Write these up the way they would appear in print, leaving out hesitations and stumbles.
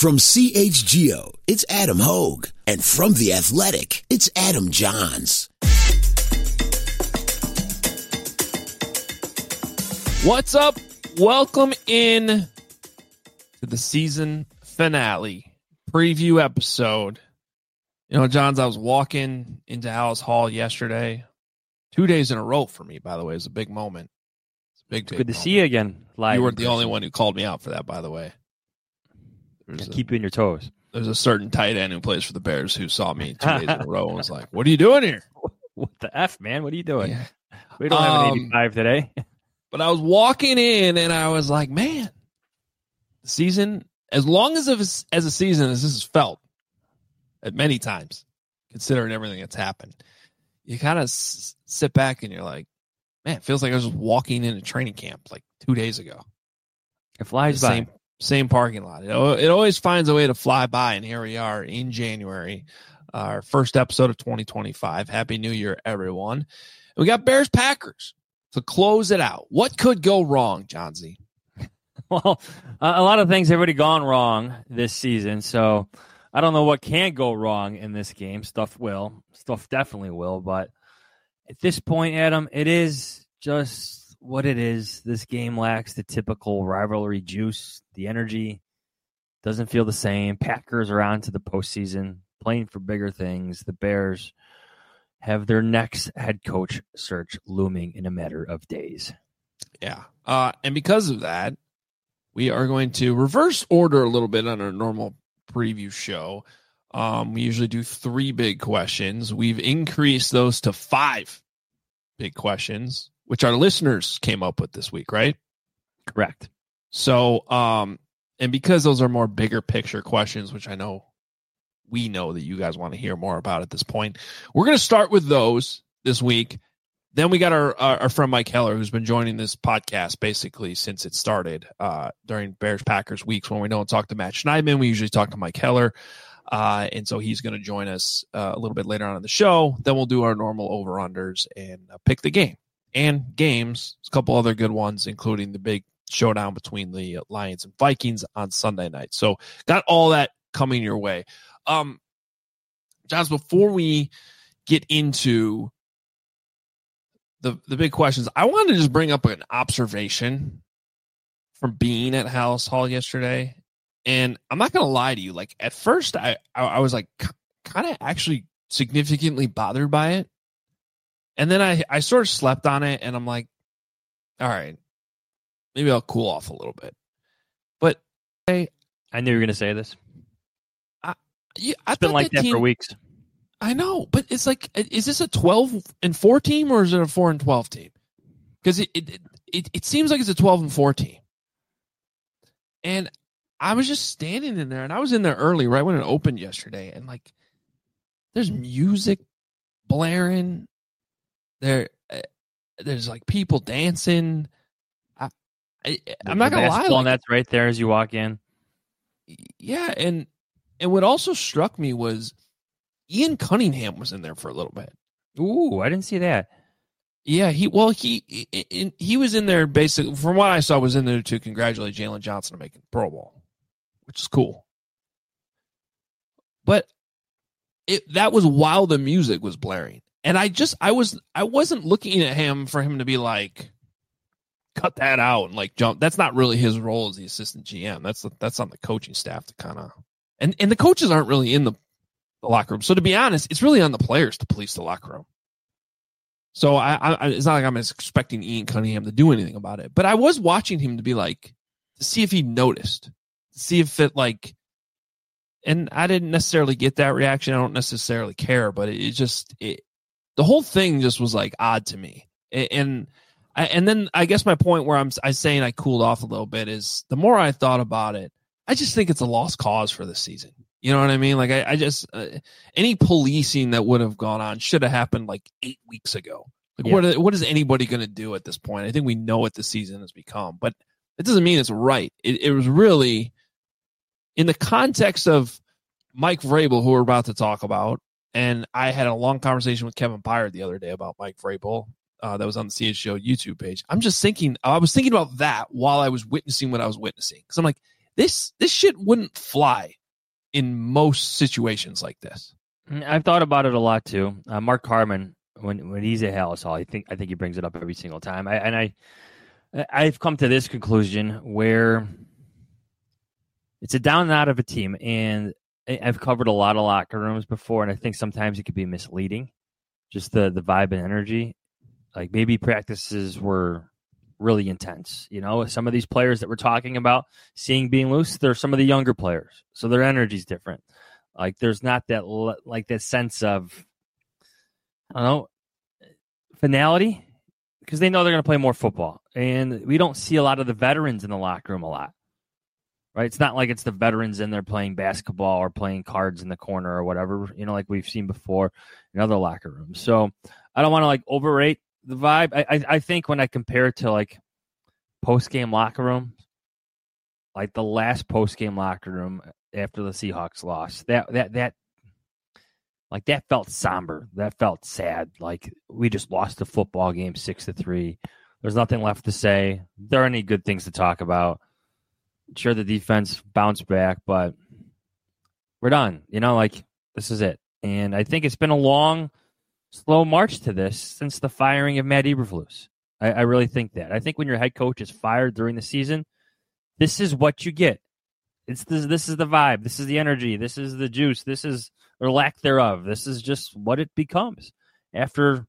From CHGO, it's Adam Hogue. And from The Athletic, it's Adam Johns. What's up? Welcome in to the season finale preview episode. You know, Johns, I was walking into Hallis Hall yesterday. 2 days in a row for me, by the way. It was a big moment. It's good moment. to see you again live. You weren't the only one who called me out for that, by the way. Keep you on your toes. There's a certain tight end who plays for the Bears who saw me 2 days in a row and was like, what are you doing here? What the F, man? What are you doing? Yeah. We don't have an 85 today. But I was walking in and I was like, man, the season, as long as a season as this has felt at many times, considering everything that's happened, you kind of sit back and you're like, man, it feels like I was just walking into training camp like 2 days ago. It flies by. Same parking lot. It always finds a way to fly by, and here we are in January, our first episode of 2025. Happy New Year, everyone. And we got Bears-Packers to close it out. What could go wrong, Johnsy? Well, a lot of things have already gone wrong this season, so I don't know what can go wrong in this game. Stuff definitely will, but at this point, Adam, it is just what it is. This game lacks the typical rivalry juice. The energy doesn't feel the same. Packers are on to the postseason, playing for bigger things. The Bears have their next head coach search looming in a matter of days. Yeah. And because of that, we are going to reverse order a little bit on our normal preview show. We usually do 3 big questions. We've increased those to 5 big questions, which our listeners came up with this week, right? Correct. So, and because those are more bigger picture questions, which we know that you guys want to hear more about at this point, we're going to start with those this week. Then we got our friend Mike Heller, who's been joining this podcast basically since it started during Bears-Packers weeks when we don't talk to Matt Schneidman. We usually talk to Mike Heller. And so he's going to join us a little bit later on in the show. Then we'll do our normal over-unders and pick the game and games. A couple other good ones, including the big showdown between the Lions and Vikings on Sunday night. So got all that coming your way. Johns, before we get into the big questions, I wanted to just bring up an observation from being at Hallis Hall yesterday. And I'm not going to lie to you. Like, at first, I was like kind of actually significantly bothered by it. And then I sort of slept on it, and I'm like, all right, maybe I'll cool off a little bit. But I knew you were going to say this. It's been like that for weeks. I know, but it's like, is this a 12-4 team or is it a 4-12 team? Because it seems like it's a 12-4 team. And I was just standing in there, and I was in there early, right when it opened yesterday, and like, there's music blaring. There's like people dancing. I'm not gonna lie, and that's right there as you walk in. Yeah, and what also struck me was Ian Cunningham was in there for a little bit. Ooh, I didn't see that. Yeah, he was in there basically, from what I saw, was in there to congratulate Jalen Johnson on making the Pro Bowl, which is cool. But that was while the music was blaring. And I wasn't looking at him for him to be like, cut that out and like jump. That's not really his role as the assistant GM. That's on the coaching staff to kind of, and the coaches aren't really in the locker room. So to be honest, it's really on the players to police the locker room. So it's not like I'm expecting Ian Cunningham to do anything about it, but I was watching him to be like, to see if he noticed, to see if it like, and I didn't necessarily get that reaction. I don't necessarily care, but the whole thing just was like odd to me. And then I guess my point where I'm saying I cooled off a little bit is the more I thought about it, I just think it's a lost cause for this season. You know what I mean? Like I just any policing that would have gone on should have happened like 8 weeks ago. Like what is anybody going to do at this point? I think we know what the season has become, but it doesn't mean it's right. It was really in the context of Mike Vrabel, who we're about to talk about. And I had a long conversation with Kevin Byard the other day about Mike Vrabel. That was on the CHGO YouTube page. I was thinking about that while I was witnessing what I was witnessing. Because I'm like, This shit wouldn't fly in most situations like this. I've thought about it a lot too. Mark Harmon, when he's at Halas Hall, I think he brings it up every single time. I've come to this conclusion where it's a down and out of a team, and I've covered a lot of locker rooms before, and I think sometimes it could be misleading, just the vibe and energy. Like maybe practices were really intense. You know, some of these players that we're talking about seeing being loose, they're some of the younger players, so their energy's different. Like there's not that that sense of, I don't know, finality, because they know they're going to play more football, and we don't see a lot of the veterans in the locker room a lot. Right, it's not like it's the veterans in there playing basketball or playing cards in the corner or whatever, you know, like we've seen before in other locker rooms. So I don't want to like overrate the vibe. I think when I compare it to like post-game locker room, like the last post-game locker room after the Seahawks lost, that felt somber. That felt sad. Like we just lost the football game 6-3. There's nothing left to say. There aren't any good things to talk about. Sure, the defense bounced back, but we're done. You know, like this is it. And I think it's been a long, slow march to this since the firing of Matt Eberflus. I really think that. I think when your head coach is fired during the season, this is what you get. This is the vibe. This is the energy. This is the juice. This is, or lack thereof. This is just what it becomes after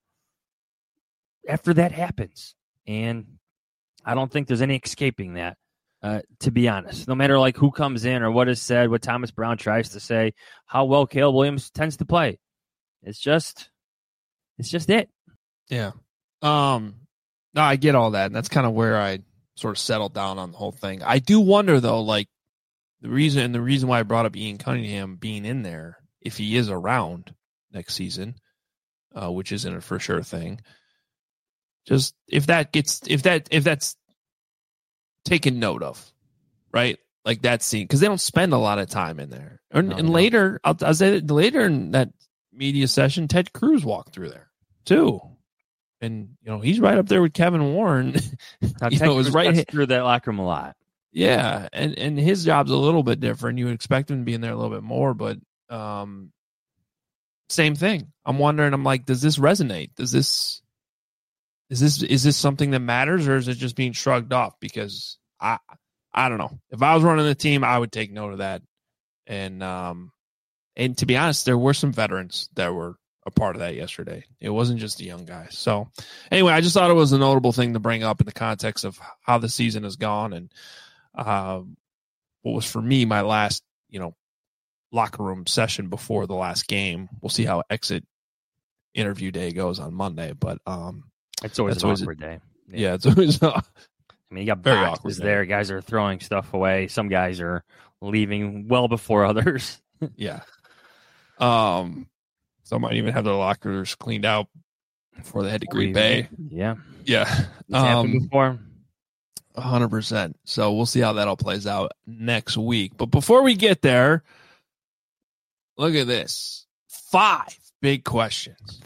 that happens. And I don't think there's any escaping that. To be honest, no matter like who comes in or what is said, what Thomas Brown tries to say, how well Caleb Williams tends to play, it's just it. Yeah. No, I get all that. And that's kind of where I sort of settled down on the whole thing. I do wonder though, like the reason why I brought up Ian Cunningham being in there, if he is around next season, which isn't a for sure thing. Just if that's taken note of, right? Like that scene, because they don't spend a lot of time in there. And later, I'll say that later in that media session, Ted Cruz walked through there too, and you know he's right up there with Kevin Warren. Ted Cruz right through that locker room a lot. Yeah, and his job's a little bit different. You would expect him to be in there a little bit more, but same thing. I'm wondering. I'm like, does this resonate? Is this something that matters, or is it just being shrugged off? Because I don't know. If I was running the team, I would take note of that. And to be honest, there were some veterans that were a part of that yesterday. It wasn't just the young guys. So anyway, I just thought it was a notable thing to bring up in the context of how the season has gone and what was for me my last, locker room session before the last game. We'll see how exit interview day goes on Monday, but it's always an awkward day. Yeah, it's always. I mean, you got very awkward there. Guys are throwing stuff away. Some guys are leaving well before others. Yeah. Some might even have their lockers cleaned out before they head to Green Bay. Yeah. Yeah. It's happened before. 100%. So we'll see how that all plays out next week. But before we get there, look at this. 5 big questions.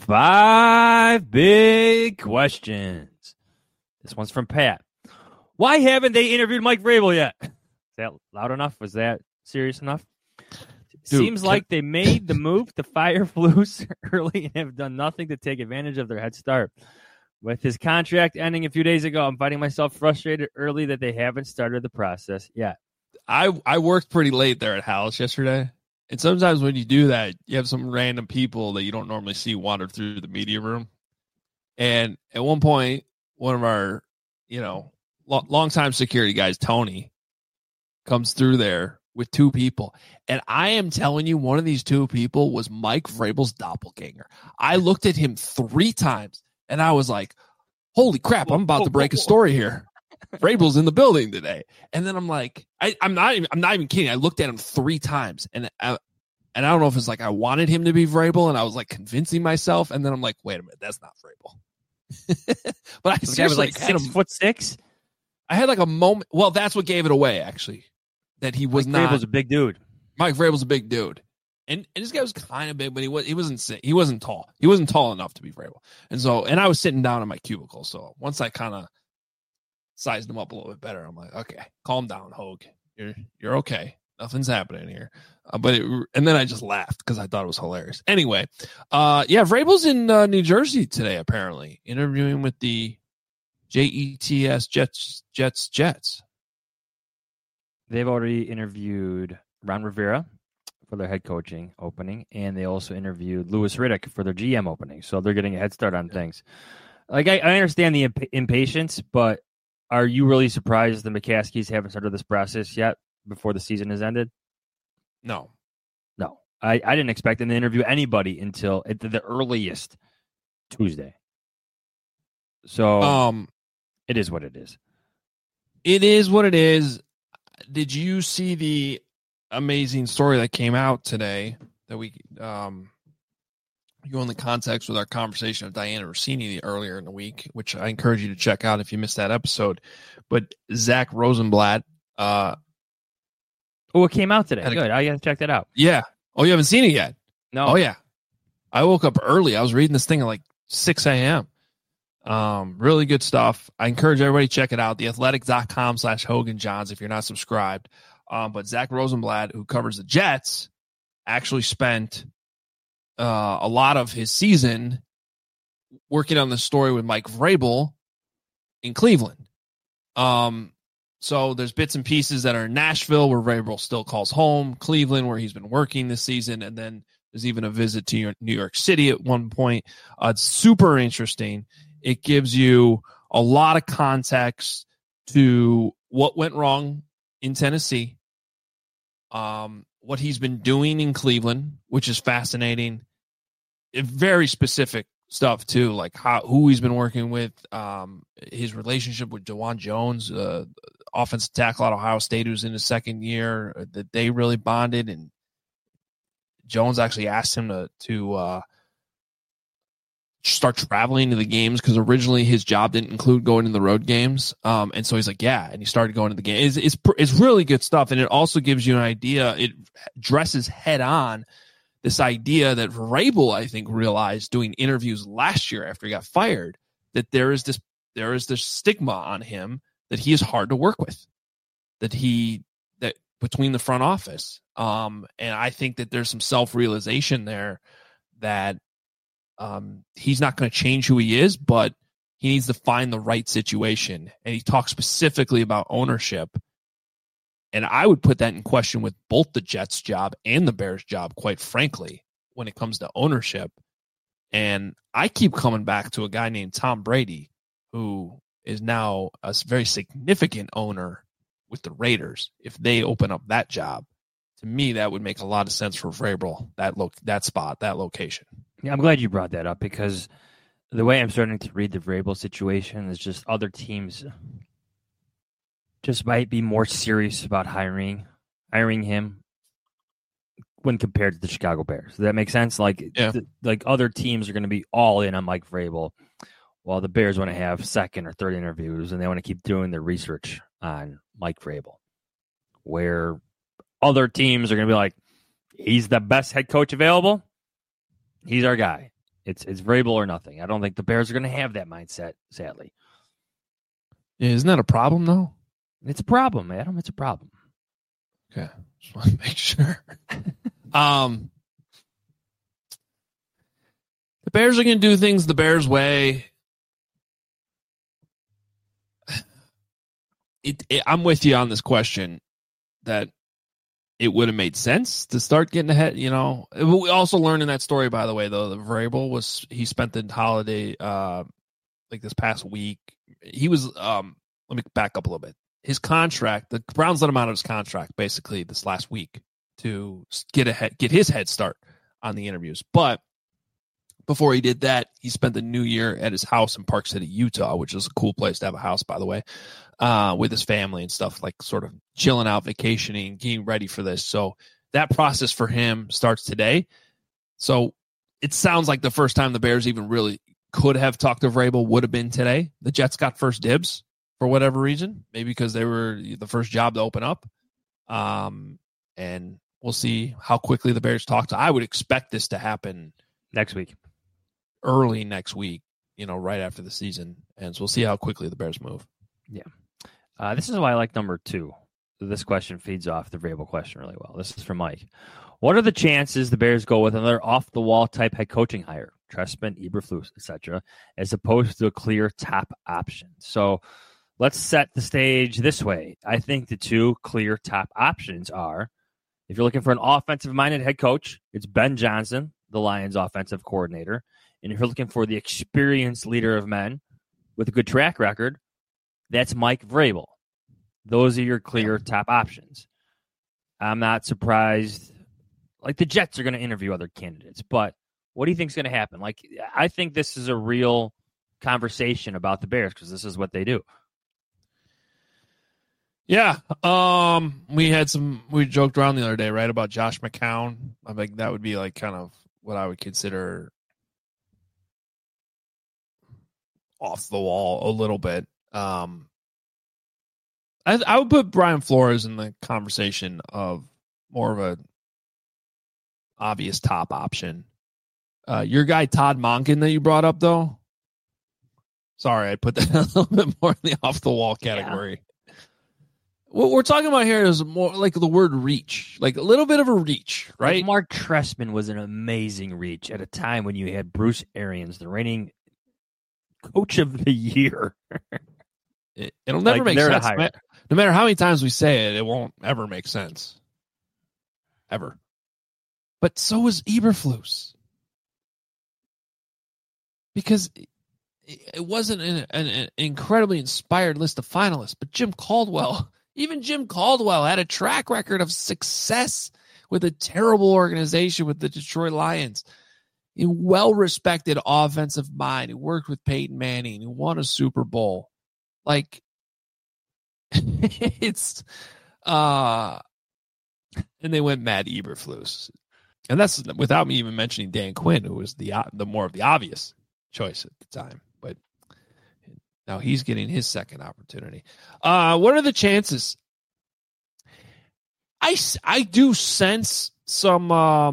5 big questions. This one's from Pat. Why haven't they interviewed Mike Vrabel yet? Is that loud enough? Was that serious enough? Dude, seems like they made the move to fire Flus early and have done nothing to take advantage of their head start. With his contract ending a few days ago, I'm finding myself frustrated early that they haven't started the process yet. I worked pretty late there at Halas yesterday. And sometimes when you do that, you have some random people that you don't normally see wander through the media room. And at one point, one of our, longtime security guys, Tony, comes through there with 2 people. And I am telling you, one of these 2 people was Mike Vrabel's doppelganger. I looked at him 3 times and I was like, holy crap, I'm about to break a story here. Vrabel's in the building today. And then I'm like, I'm not even kidding. I looked at him 3 times and I don't know if it's like I wanted him to be Vrabel and I was like convincing myself. And then I'm like, wait a minute, that's not Vrabel. But I seriously was like 6'6". I had like a moment. Well, that's what gave it away, actually, that he was Mike not. Vrabel's a big dude. Mike Vrabel's a big dude. And this guy was kind of big, but he wasn't tall. He wasn't tall enough to be Vrabel. And I was sitting down in my cubicle. So once I kind of sized him up a little bit better, I'm like, okay, calm down, Hogue. You're okay. Nothing's happening here. And then I just laughed because I thought it was hilarious. Anyway, Vrabel's in New Jersey today, apparently, interviewing with the JETS Jets. They've already interviewed Ron Rivera for their head coaching opening, and they also interviewed Louis Riddick for their GM opening. So they're getting a head start on things. Like, I understand the impatience, but are you really surprised the McCaskies haven't started this process yet before the season has ended? No. I didn't expect them to interview anybody until at the earliest Tuesday. So it is what it is. It is what it is. Did you see the amazing story that came out today that we go in the context with our conversation of Diana Rossini earlier in the week, which I encourage you to check out if you missed that episode. But Zach Rosenblatt. It came out today. Good. I got to check that out. Yeah. Oh, you haven't seen it yet? No. Oh, yeah. I woke up early. I was reading this thing at like 6 a.m. Really good stuff. I encourage everybody to check it out. Theathletic.com/Hogan Johns if you're not subscribed. But Zach Rosenblatt, who covers the Jets, actually spent a lot of his season working on the story with Mike Vrabel in Cleveland. So there's bits and pieces that are in Nashville where Vrabel still calls home, Cleveland where he's been working this season, and then there's even a visit to New York City at one point. It's super interesting. It gives you a lot of context to what went wrong in Tennessee, what he's been doing in Cleveland, which is fascinating. Very specific stuff too, like who he's been working with, his relationship with DeJuan Jones, offensive tackle at Ohio State, who's in his second year, that they really bonded, and Jones actually asked him to start traveling to the games because originally his job didn't include going to the road games, and so he's like, yeah, and he started going to the games. It's really good stuff, and it also gives you an idea. It dresses head on this idea that Vrabel, I think, realized doing interviews last year after he got fired, that there is this stigma on him that he is hard to work with, that between the front office. And I think that there's some self-realization there that he's not going to change who he is, but he needs to find the right situation. And he talks specifically about ownership. And I would put that in question with both the Jets job and the Bears job, quite frankly, when it comes to ownership. And I keep coming back to a guy named Tom Brady, who is now a very significant owner with the Raiders. If they open up that job, to me, that would make a lot of sense for Vrabel, that spot, that location. Yeah, I'm glad you brought that up, because the way I'm starting to read the Vrabel situation is just other teams just might be more serious about hiring him when compared to the Chicago Bears. Does that make sense? Like, like other teams are going to be all in on Mike Vrabel, while the Bears want to have second or third interviews, and they want to keep doing their research on Mike Vrabel, where other teams are going to be like, he's the best head coach available. He's our guy. It's Vrabel or nothing. I don't think the Bears are going to have that mindset, sadly. Yeah, isn't that a problem, though? It's a problem, Adam. It's a problem. Okay. Just want to make sure. The Bears are going to do things the Bears way. I'm with you on this question that it would have made sense to start getting ahead. You know, we also learned in that story, by the way, though, that Vrabel he spent the holiday, like this past week. He was, let me back up a little bit. His contract, the Browns let him out of his contract basically this last week to get his head start on the interviews. But before he did that, he spent the new year at his house in Park City, Utah, which is a cool place to have a house, by the way, with his family and stuff, like sort of chilling out, vacationing, getting ready for this. So that process for him starts today. So it sounds like the first time the Bears even really could have talked to Vrabel would have been today. The Jets got first dibs for whatever reason, maybe because they were the first job to open up. And we'll see how quickly the Bears talk to. I would expect this to happen next week. Early next week, right after the season. And so we'll see how quickly the Bears move. Yeah. This is why I like number 2. this question feeds off the Vrabel question really well. This is from Mike. What are the chances the Bears go with another off-the-wall type head coaching hire, Trestman, Eberflus, etc., as opposed to a clear top option? So let's set the stage this way. I think the two clear top options are, if you're looking for an offensive-minded head coach, it's Ben Johnson, the Lions offensive coordinator. And if you're looking for the experienced leader of men with a good track record, that's Mike Vrabel. Those are your clear top options. I'm not surprised. Like, the Jets are going to interview other candidates, but what do you think is going to happen? Like, I think this is a real conversation about the Bears because this is what they do. Yeah. We joked around the other day, right, about Josh McCown. I think that would be like kind of what I would consider off the wall a little bit. I would put Brian Flores in the conversation of more of a obvious top option. Your guy Todd Monken that you brought up, though. Sorry, I put that a little bit more in the off the wall category. Yeah. What we're talking about here is more like the word reach, like a little bit of a reach, right? Like Mark Trestman was an amazing reach at a time when you had Bruce Arians, the reigning coach of the year. It'll never make sense. No matter how many times we say it, it won't ever make sense. Ever. But so is Eberflus. Because it wasn't an incredibly inspired list of finalists, but Jim Caldwell, even Jim Caldwell had a track record of success with a terrible organization with the Detroit Lions. A well-respected offensive mind who worked with Peyton Manning, who won a Super Bowl. Like, it's and they went Matt Eberflus, and that's without me even mentioning Dan Quinn, who was the more of the obvious choice at the time, but now he's getting his second opportunity. What are the chances? I do sense some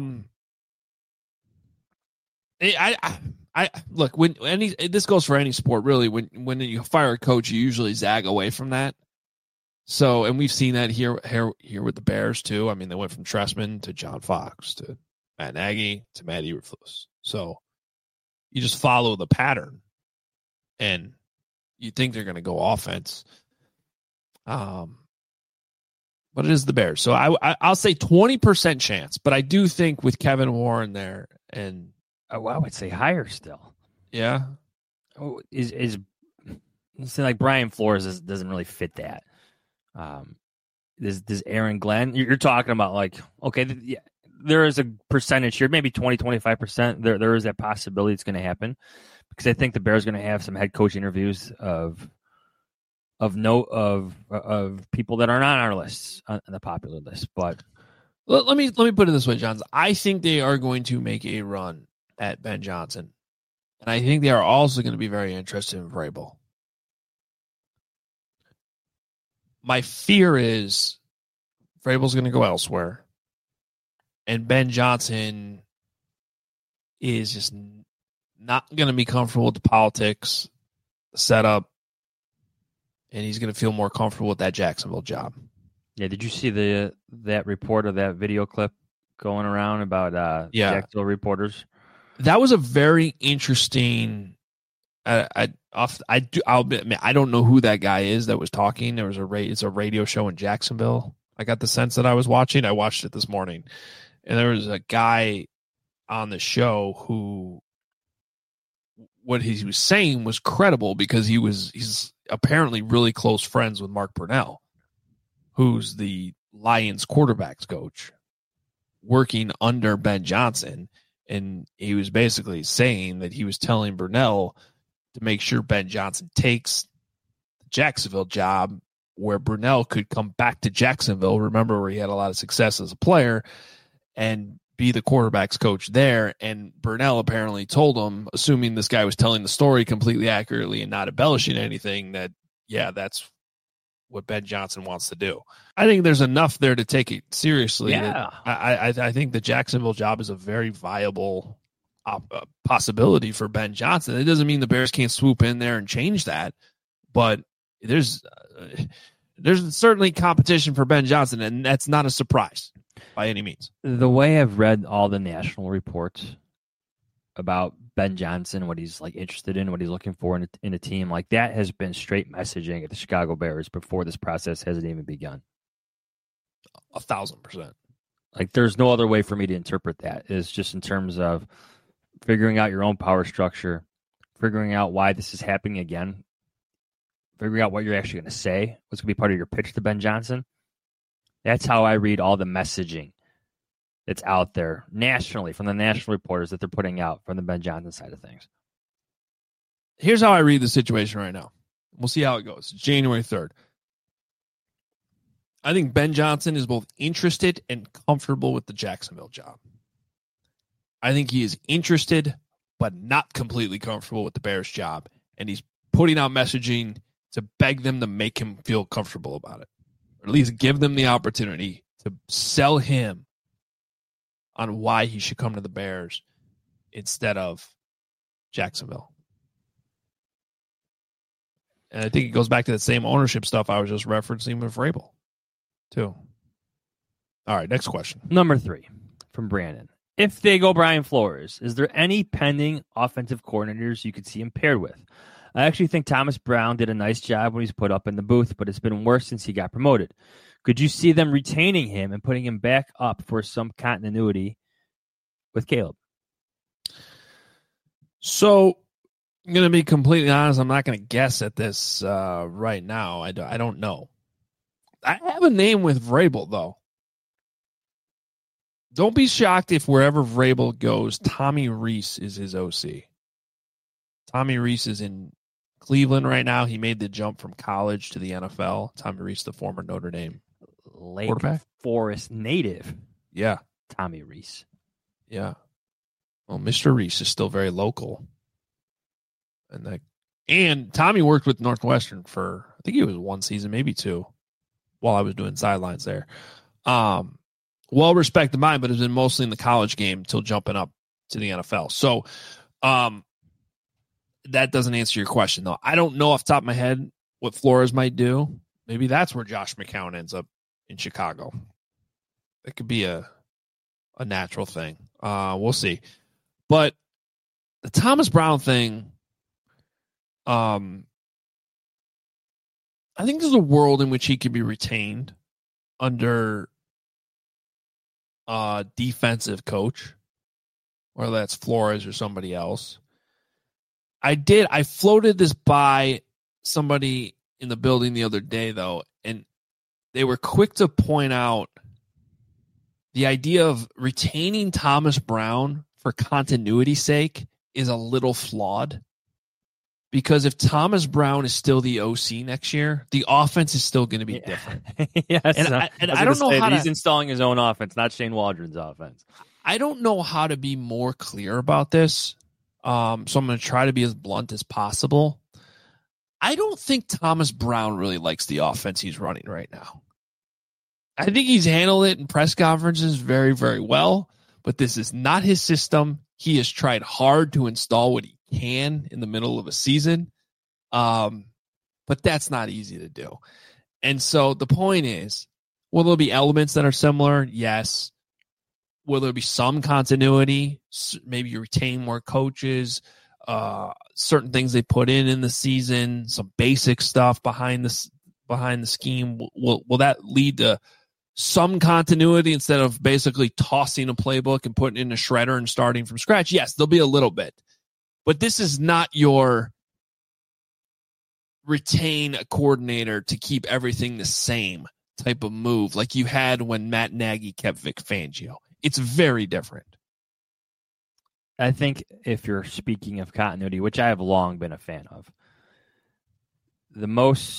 I look, when this goes for any sport really, when you fire a coach, you usually zag away from that. So, and we've seen that here with the Bears too. I mean, they went from Trestman to John Fox to Matt Nagy to Matt Eberflus. So you just follow the pattern, and you think they're going to go offense. But it is the Bears. So I'll say 20% chance, but I do think with Kevin Warren there, and I would say higher still. Yeah. Oh, is like Brian Flores doesn't really fit that. Does Aaron Glenn? You're talking about like, okay, yeah, there is a percentage here, maybe 20-25%. There is that possibility it's going to happen because I think the Bears are going to have some head coach interviews of people that are not on our lists, on the popular list. But let me put it this way, Johns. I think they are going to make a run at Ben Johnson, and I think they are also going to be very interested in Vrabel. My fear is Vrabel's going to go elsewhere, and Ben Johnson is just not going to be comfortable with the politics, the setup, and he's going to feel more comfortable with that Jacksonville job. Yeah, did you see that report or that video clip going around about Jacksonville reporters? That was a very interesting. I'll admit, I don't know who that guy is that was talking. There was it's a radio show in Jacksonville. I got the sense that I was watching. I watched it this morning, and there was a guy on the show who, what he was saying was credible because he's apparently really close friends with Mark Brunell, who's the Lions quarterbacks coach, working under Ben Johnson. And he was basically saying that he was telling Brunell to make sure Ben Johnson takes the Jacksonville job where Brunell could come back to Jacksonville, remember where he had a lot of success as a player, and be the quarterback's coach there. And Brunell apparently told him, assuming this guy was telling the story completely accurately and not embellishing anything, that, yeah, that's what Ben Johnson wants to do. I think there's enough there to take it seriously. Yeah. I think the Jacksonville job is a very viable possibility for Ben Johnson. It doesn't mean the Bears can't swoop in there and change that, but there's There's certainly competition for Ben Johnson, and that's not a surprise by any means. The way I've read all the national reports about Ben Johnson, what he's like interested in, what he's looking for in a team, like that has been straight messaging at the Chicago Bears before this process hasn't even begun. 1,000%. Like there's no other way for me to interpret that. It's just in terms of figuring out your own power structure, figuring out why this is happening again, figuring out what you're actually going to say, what's going to be part of your pitch to Ben Johnson. That's how I read all the messaging that's out there nationally from the national reporters that they're putting out from the Ben Johnson side of things. Here's how I read the situation right now. We'll see how it goes. January 3rd. I think Ben Johnson is both interested and comfortable with the Jacksonville job. I think he is interested, but not completely comfortable with the Bears job. And he's putting out messaging to beg them to make him feel comfortable about it. Or at least give them the opportunity to sell him on why he should come to the Bears instead of Jacksonville. And I think it goes back to that same ownership stuff I was just referencing with Vrabel, too. All right, next question. Number 3 from Brandon. If they go Brian Flores, is there any pending offensive coordinators you could see him paired with? I actually think Thomas Brown did a nice job when he's put up in the booth, but it's been worse since he got promoted. Could you see them retaining him and putting him back up for some continuity with Caleb? So, I'm going to be completely honest. I'm not going to guess at this right now. I don't know. I have a name with Vrabel, though. Don't be shocked if wherever Vrabel goes, Tommy Rees is his OC. Tommy Rees is in Cleveland right now. He made the jump from college to the NFL. Tommy Rees, the former Notre Dame Lake Forest native. Yeah. Tommy Rees. Yeah. Well, Mr. Rees is still very local. And Tommy worked with Northwestern for, I think it was 1 season, maybe 2, while I was doing sidelines there. Well respected mine, but it's been mostly in the college game till jumping up to the NFL. So that doesn't answer your question, though. I don't know off the top of my head what Flores might do. Maybe that's where Josh McCown ends up in Chicago. That could be a natural thing. We'll see. But the Thomas Brown thing, I think there's a world in which he could be retained under a defensive coach, whether that's Flores or somebody else. I floated this by somebody in the building the other day, though, and they were quick to point out the idea of retaining Thomas Brown for continuity's sake is a little flawed. Because if Thomas Brown is still the OC next year, the offense is still going to be different. Yes, and I don't know how he's installing his own offense, not Shane Waldron's offense. I don't know how to be more clear about this. So I'm going to try to be as blunt as possible. I don't think Thomas Brown really likes the offense he's running right now. I think he's handled it in press conferences very, very well, but this is not his system. He has tried hard to install what he can in the middle of a season, but that's not easy to do. And so the point is, will there be elements that are similar? Yes. Will there be some continuity? Maybe you retain more coaches, certain things they put in the season, some basic stuff behind the scheme. Will that lead to some continuity instead of basically tossing a playbook and putting it in a shredder and starting from scratch? Yes, there'll be a little bit. But this is not your retain a coordinator to keep everything the same type of move like you had when Matt Nagy kept Vic Fangio. It's very different. I think if you're speaking of continuity, which I have long been a fan of, the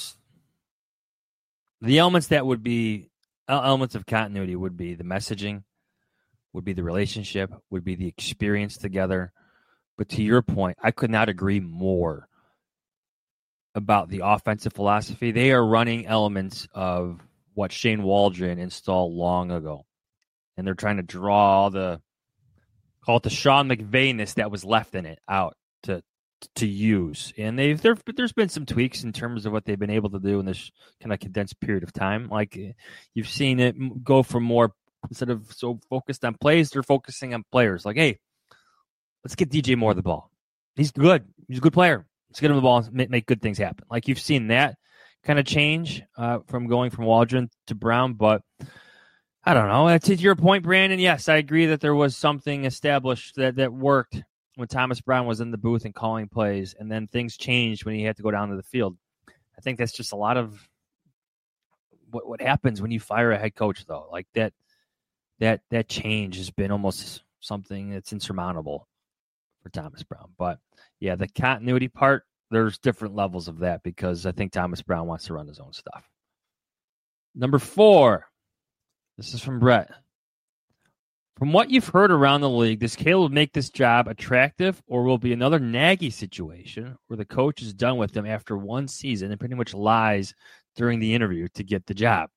elements that would be elements of continuity would be the messaging, would be the relationship, would be the experience together. But to your point, I could not agree more about the offensive philosophy. They are running elements of what Shane Waldron installed long ago. And they're trying to draw call it the Sean McVay-ness that was left in it out to to use. And there's been some tweaks in terms of what they've been able to do in this kind of condensed period of time. Like you've seen it go from more, instead of so focused on plays, they're focusing on players. Like, hey, let's get DJ Moore the ball. He's good. He's a good player. Let's get him the ball and make good things happen. Like you've seen that kind of change from going from Waldron to Brown. But I don't know. To your point, Brandon, yes, I agree that there was something established that worked when Thomas Brown was in the booth and calling plays, and then things changed when he had to go down to the field. I think that's just a lot of what happens when you fire a head coach, though. Like that change has been almost something that's insurmountable for Thomas Brown. But yeah, the continuity part, there's different levels of that because I think Thomas Brown wants to run his own stuff. Number 4, this is from Brett. From what you've heard around the league, does Caleb make this job attractive, or will it be another Nagy situation where the coach is done with him after one season and pretty much lies during the interview to get the job?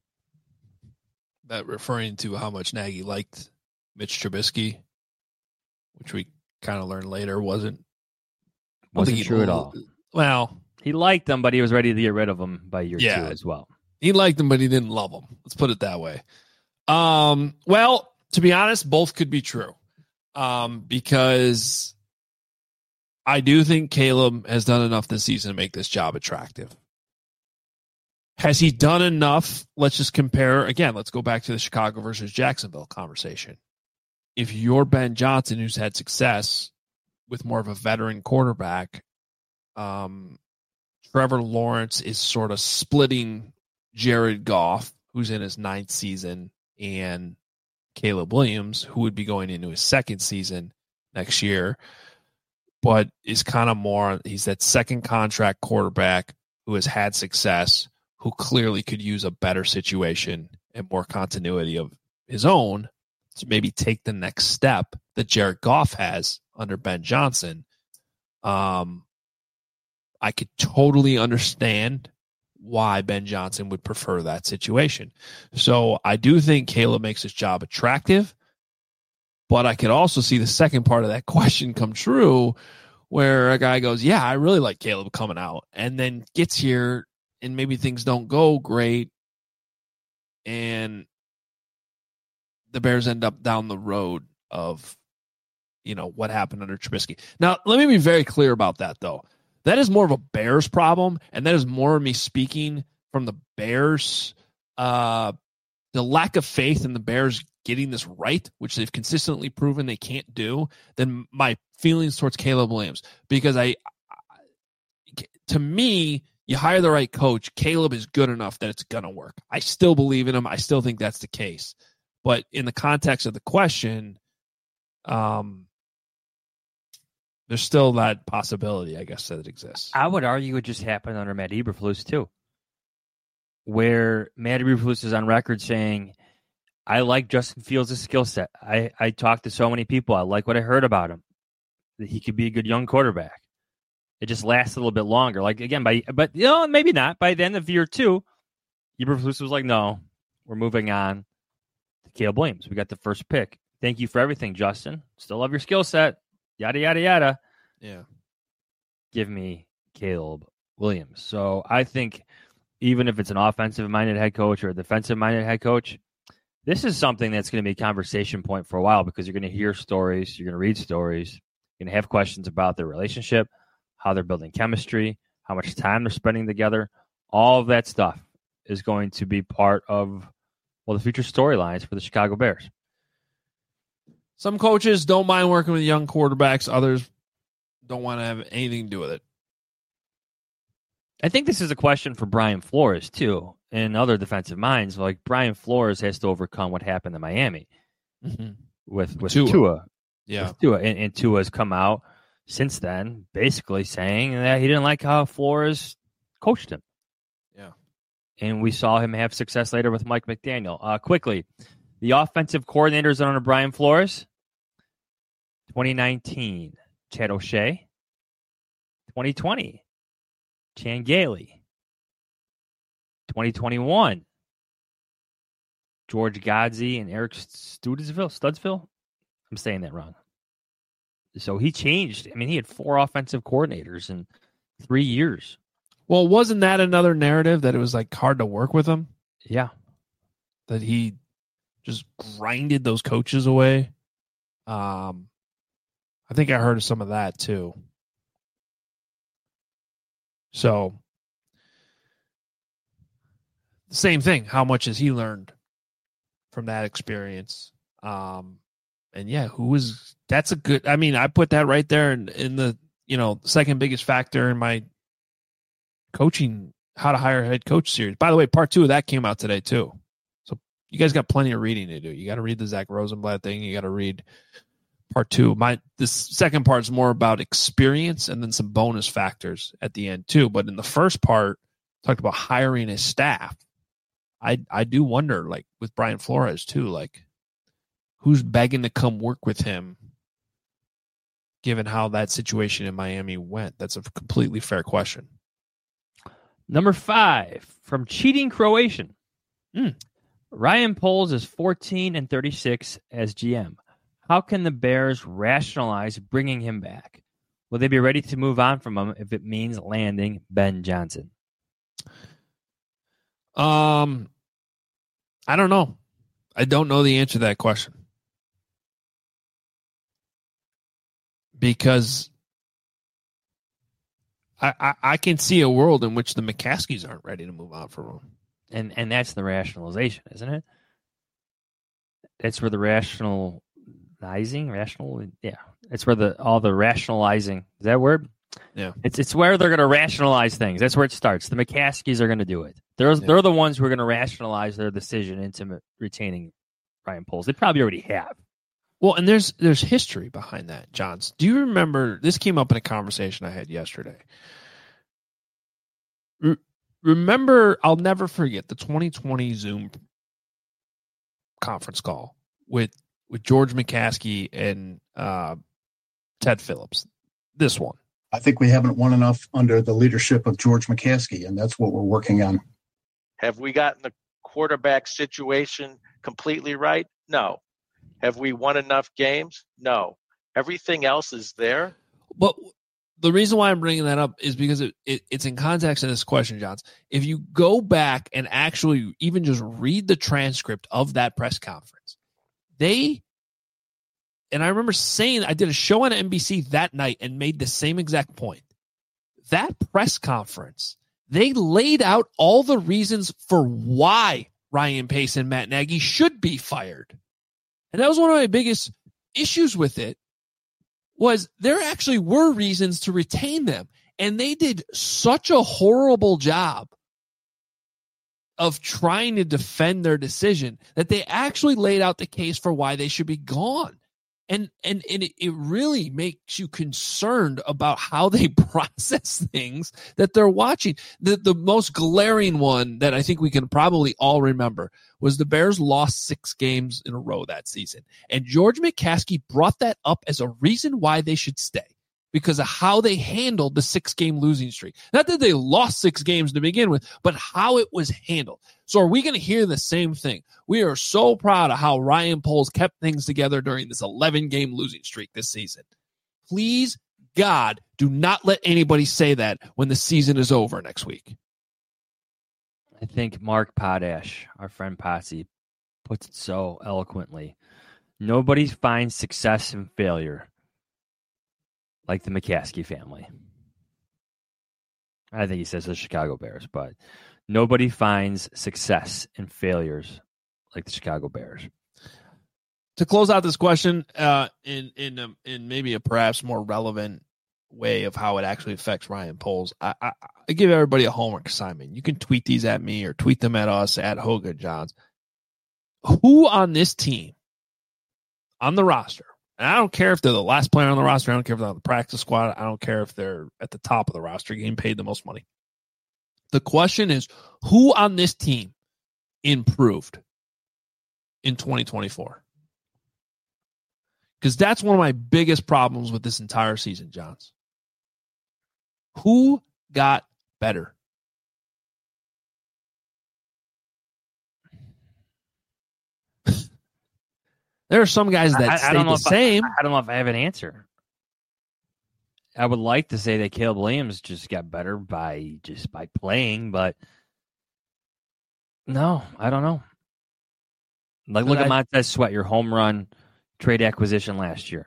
That referring to how much Nagy liked Mitch Trubisky, which we kind of learned later wasn't true at all. Well, he liked him, but he was ready to get rid of him by year 2 as well. He liked him, but he didn't love him. Let's put it that way. Well, to be honest, both could be true. Because I do think Caleb has done enough this season to make this job attractive. Has he done enough? Let's just compare. Again, let's go back to the Chicago versus Jacksonville conversation. If you're Ben Johnson, who's had success with more of a veteran quarterback, Trevor Lawrence is sort of splitting Jared Goff, who's in his 9th season, and Caleb Williams, who would be going into his 2nd season next year, but is kind of more, he's that second contract quarterback who has had success, who clearly could use a better situation and more continuity of his own to maybe take the next step that Jared Goff has under Ben Johnson. I could totally understand why Ben Johnson would prefer that situation. So I do think Caleb makes his job attractive, but I could also see the second part of that question come true where a guy goes, yeah, I really like Caleb coming out, and then gets here and maybe things don't go great and the Bears end up down the road of, what happened under Trubisky. Now, let me be very clear about that, though. That is more of a Bears problem, and that is more of me speaking from the Bears, the lack of faith in the Bears getting this right, which they've consistently proven they can't do, than my feelings towards Caleb Williams. Because to me, you hire the right coach, Caleb is good enough that it's going to work. I still believe in him. I still think that's the case. But in the context of the question, there's still that possibility, I guess, that it exists. I would argue it just happened under Matt Eberflus, too, where Matt Eberflus is on record saying, I like Justin Fields' skill set. I talked to so many people. I like what I heard about him, that he could be a good young quarterback. It just lasts a little bit longer. Like, again, but maybe not. By the end of year 2, Eberflus was like, no, we're moving on to Caleb Williams. We got the first pick. Thank you for everything, Justin. Still love your skill set. Yada, yada, yada. Yeah. Give me Caleb Williams. So I think even if it's an offensive-minded head coach or a defensive-minded head coach, this is something that's going to be a conversation point for a while because you're going to hear stories, you're going to read stories, you're going to have questions about their relationship, how they're building chemistry, how much time they're spending together. All of that stuff is going to be part of, the future storylines for the Chicago Bears. Some coaches don't mind working with young quarterbacks. Others don't want to have anything to do with it. I think this is a question for Brian Flores, too, and other defensive minds. Like, Brian Flores has to overcome what happened in Miami with Tua. Yeah. With Tua. And Tua has come out since then basically saying that he didn't like how Flores coached him. Yeah. And we saw him have success later with Mike McDaniel. Quickly, the offensive coordinators under Brian Flores, 2019, Chad O'Shea. 2020, Chan Gailey. 2021, George Godsey and Eric Studsville. I'm saying that wrong. So he changed. I mean, he had 4 offensive coordinators in 3 years. Well, wasn't that another narrative that it was like hard to work with him? Yeah. That he just grinded those coaches away. I think I heard of some of that too. So, same thing. How much has he learned from that experience? And yeah, that's a good, I mean, I put that right there in the, second biggest factor in my coaching, how to hire a head coach series. By the way, part 2 of that came out today too. So you guys got plenty of reading to do. You got to read the Zach Rosenblatt thing. You got to read part 2. This second part is more about experience and then some bonus factors at the end too. But in the first part, talked about hiring a staff. I do wonder, like with Brian Flores too, like who's begging to come work with him, given how that situation in Miami went. That's a completely fair question. Number 5 from Cheating Croatian. Ryan Poles is 14-36 as GM. How can the Bears rationalize bringing him back? Will they be ready to move on from him if it means landing Ben Johnson? I don't know. I don't know the answer to that question. Because I can see a world in which the McCaskies aren't ready to move on from him. And that's the rationalization, isn't it? That's where the rationalizing. It's where all the rationalizing, is that a word? Yeah. It's where they're going to rationalize things. That's where it starts. The McCaskies are going to do it. They're the ones who are going to rationalize their decision into retaining Ryan Poles. They probably already have. Well, and there's history behind that, Johns. Do you remember, this came up in a conversation I had yesterday. Remember, I'll never forget the 2020 Zoom conference call with George McCaskey and Ted Phillips. This one. I think we haven't won enough under the leadership of George McCaskey, and that's what we're working on. Have we gotten the quarterback situation completely right? No. Have we won enough games? No. Everything else is there. But the reason why I'm bringing that up is because it's in context of this question, Johns. If you go back and actually even just read the transcript of that press conference, and I remember saying, I did a show on NBC that night and made the same exact point. That press conference, they laid out all the reasons for why Ryan Pace and Matt Nagy should be fired. And that was one of my biggest issues with it, was there actually were reasons to retain them. And they did such a horrible job of trying to defend their decision that they actually laid out the case for why they should be gone. And it really makes you concerned about how they process things that they're watching. The most glaring one that I think we can probably all remember was the Bears lost 6 games in a row that season. And George McCaskey brought that up as a reason why they should stay, because of how they handled the 6-game losing streak. Not that they lost 6 games to begin with, but how it was handled. So are we going to hear the same thing? We are so proud of how Ryan Poles kept things together during this 11-game losing streak this season. Please, God, do not let anybody say that when the season is over next week. I think Mark Potash, our friend Potsy, puts it so eloquently. Nobody finds success in failure like the McCaskey family. I think he says the Chicago Bears, but nobody finds success in failures like the Chicago Bears. To close out this question, in maybe a perhaps more relevant way of how it actually affects Ryan Poles, I give everybody a homework assignment. You can tweet these at me or tweet them at us at Hogan Johns. Who on this team, on the roster, and I don't care if they're the last player on the roster, I don't care if they're on the practice squad, I don't care if they're at the top of the roster getting paid the most money. The question is, who on this team improved in 2024? Because that's one of my biggest problems with this entire season, Johns. Who got better? There are some guys that stayed the same. I don't know if I have an answer. I would like to say that Caleb Williams just got better by playing, but no, I don't know. Like, look at Montez Sweat, your home run trade acquisition last year.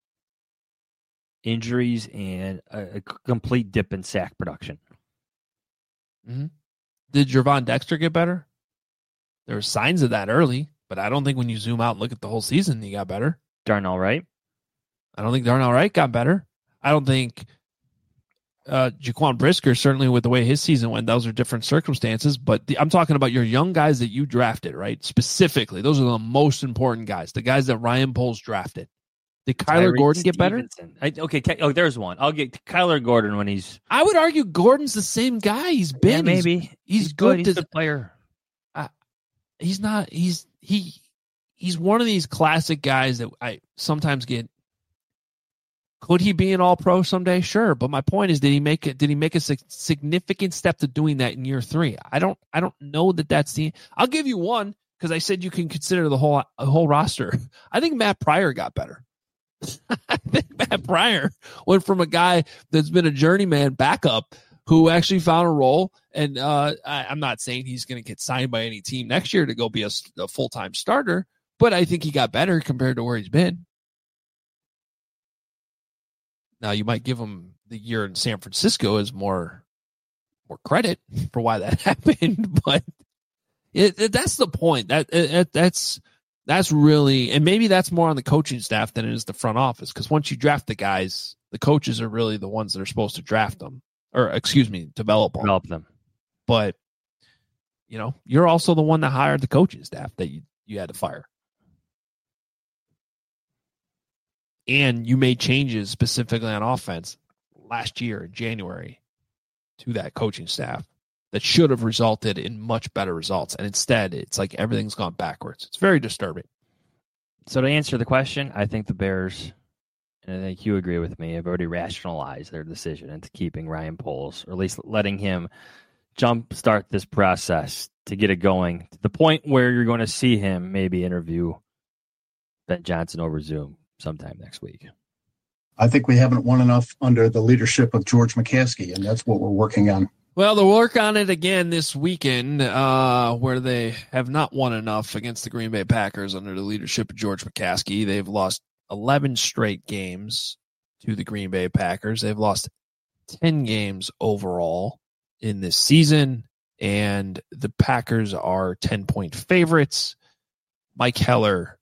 Injuries and a complete dip in sack production. Mm-hmm. Did Gervon Dexter get better? There were signs of that early, but I don't think when you zoom out and look at the whole season, he got better. Darnell Wright? I don't think Darnell Wright got better. I don't think Jaquan Brisker, certainly with the way his season went, those are different circumstances. But I'm talking about your young guys that you drafted, right? Specifically, those are the most important guys, the guys that Ryan Poles drafted. Did Kyler Gordon get better? There's one. I'll get Kyler Gordon when he's... I would argue Gordon's the same guy he's been. Yeah, maybe. He's good. He's a good player. He's not... He's one of these classic guys that I sometimes get... Could he be an all-pro someday? Sure. But my point is, did he make a significant step to doing that in year 3? I don't know that that's the... I'll give you one, because I said you can consider the whole roster. I think Matt Pryor got better. I think Matt Pryor went from a guy that's been a journeyman backup who actually found a role. And I'm not saying he's going to get signed by any team next year to go be a full-time starter, but I think he got better compared to where he's been. Now, you might give him the year in San Francisco as more credit for why that happened, but that's the point. That's really, and maybe that's more on the coaching staff than it is the front office, because once you draft the guys, the coaches are really the ones that are supposed to draft them, or develop them. But, you're also the one that hired the coaching staff that you had to fire. And you made changes specifically on offense last year in January to that coaching staff that should have resulted in much better results. And instead, it's like everything's gone backwards. It's very disturbing. So to answer the question, I think the Bears, and I think you agree with me, have already rationalized their decision into keeping Ryan Poles, or at least letting him jumpstart this process to get it going to the point where you're going to see him maybe interview Ben Johnson over Zoom sometime next week. I think we haven't won enough under the leadership of George McCaskey, and that's what we're working on. Well, they'll work on it again this weekend, where they have not won enough against the Green Bay Packers under the leadership of George McCaskey. They've lost 11 straight games to the Green Bay Packers. They've lost 10 games overall in this season, and the Packers are 10-point favorites. Mike Heller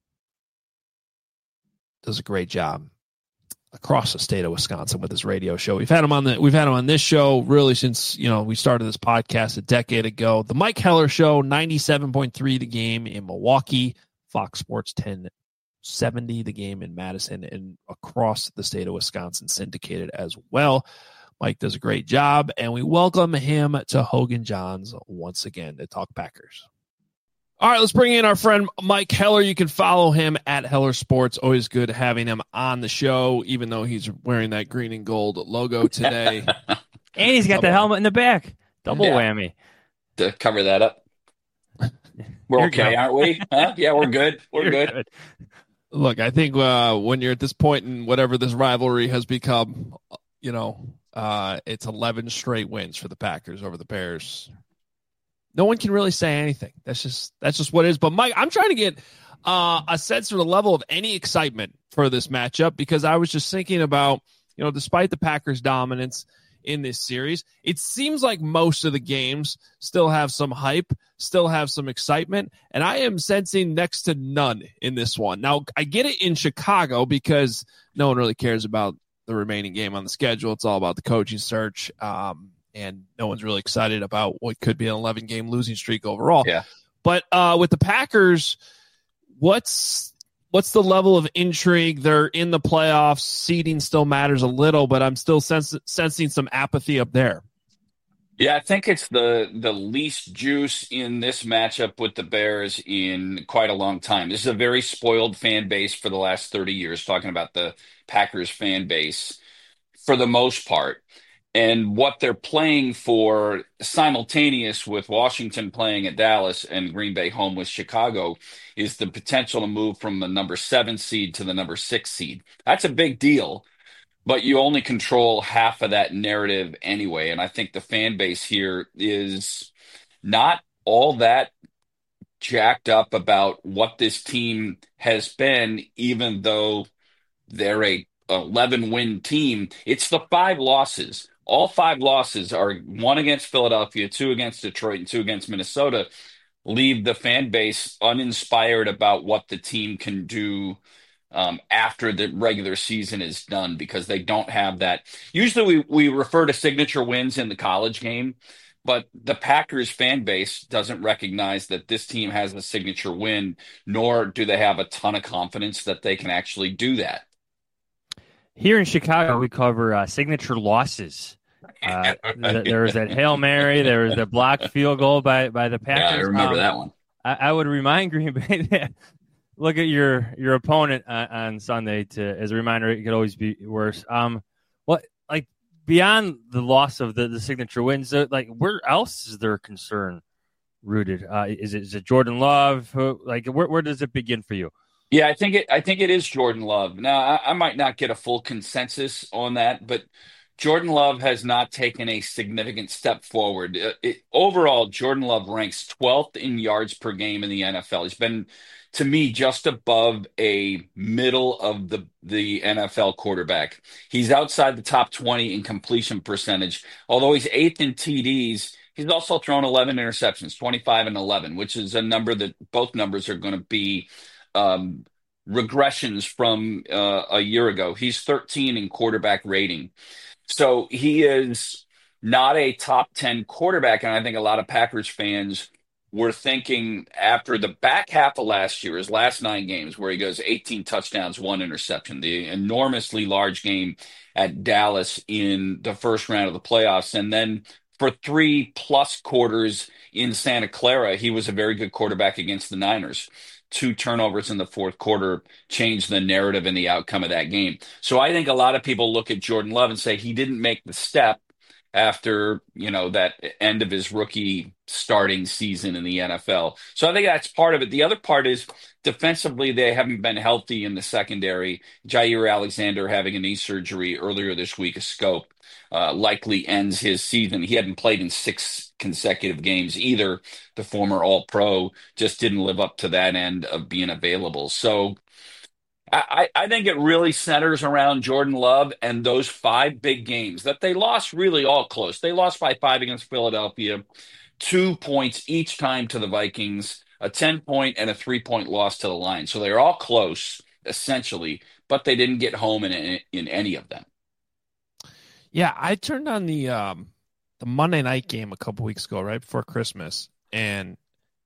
does a great job across the state of Wisconsin with his radio show. We've had him on this show really since, we started this podcast a decade ago. The Mike Heller Show, 97.3 The Game in Milwaukee, Fox Sports 1070 The Game in Madison, and across the state of Wisconsin, syndicated as well. Mike does a great job, and we welcome him to Hogan Johns once again to talk Packers. All right, let's bring in our friend Mike Heller. You can follow him at Heller Sports. Always good having him on the show, even though he's wearing that green and gold logo today. And he's got the helmet in the back. Double whammy. To cover that up. We're okay, aren't we? Huh? Yeah, we're good. We're good. Look, I think when you're at this point in whatever this rivalry has become, it's 11 straight wins for the Packers over the Bears. No one can really say anything. That's just what it is. But Mike, I'm trying to get a sense of the level of any excitement for this matchup, because I was just thinking about, despite the Packers' dominance in this series, it seems like most of the games still have some hype, still have some excitement, and I am sensing next to none in this one. Now, I get it in Chicago because no one really cares about the remaining game on the schedule. It's all about the coaching search. And no one's really excited about what could be an 11-game losing streak overall. Yeah. But with the Packers, what's the level of intrigue? They're in the playoffs. Seeding still matters a little, but I'm still sensing some apathy up there. Yeah, I think it's the least juice in this matchup with the Bears in quite a long time. This is a very spoiled fan base for the last 30 years, talking about the Packers fan base for the most part. And what they're playing for simultaneous with Washington playing at Dallas and Green Bay home with Chicago is the potential to move from the number 7 seed to the number 6 seed. That's a big deal but you only control half of that narrative anyway. And I think the fan base here is not all that jacked up about what this team has been, even though they're a 11-win team. It's the 5 losses. All 5 losses are one against Philadelphia, 2 against Detroit, and 2 against Minnesota. Leave the fan base uninspired about what the team can do after the regular season is done because they don't have that. Usually we refer to signature wins in the college game, but the Packers fan base doesn't recognize that this team has a signature win, nor do they have a ton of confidence that they can actually do that. Here in Chicago, we cover signature losses. There was that Hail Mary. There was the blocked field goal by the Packers. Yeah, I remember that one. I would remind Green Bay that look at your opponent on Sunday as a reminder. It could always be worse. What like beyond the loss of the signature wins, like where else is there concern rooted? Is it Jordan Love? Where does it begin for you? Yeah, I think it is Jordan Love. Now, I might not get a full consensus on that, but Jordan Love has not taken a significant step forward. Overall, Jordan Love ranks 12th in yards per game in the NFL. He's been, to me, just above a middle of the NFL quarterback. He's outside the top 20 in completion percentage. Although he's 8th in TDs, he's also thrown 11 interceptions, 25 and 11, which is a number that both numbers are going to be regressions from a year ago. He's 13 in quarterback rating. So he is not a top 10 quarterback. And I think a lot of Packers fans were thinking after the back half of last year, his last 9 games, where he goes 18 touchdowns, 1 interception, the enormously large game at Dallas in the first round of the playoffs. And then for 3+ quarters in Santa Clara, he was a very good quarterback against the Niners. 2 turnovers in the fourth quarter changed the narrative and the outcome of that game. So I think a lot of people look at Jordan Love and say he didn't make the step after, that end of his rookie starting season in the NFL. So I think that's part of it. The other part is defensively, they haven't been healthy in the secondary. Jair Alexander having a knee surgery earlier this week, a scope, likely ends his season. He hadn't played in 6 consecutive games either. The former All-Pro just didn't live up to that end of being available. So I think it really centers around Jordan Love and those 5 big games that they lost really all close. They lost by 5 against Philadelphia, 2 points each time to the Vikings, a 10-point and a 3-point loss to the Lions. So they're all close, essentially, but they didn't get home in any of them. Yeah, I turned on the Monday night game a couple weeks ago, right before Christmas, and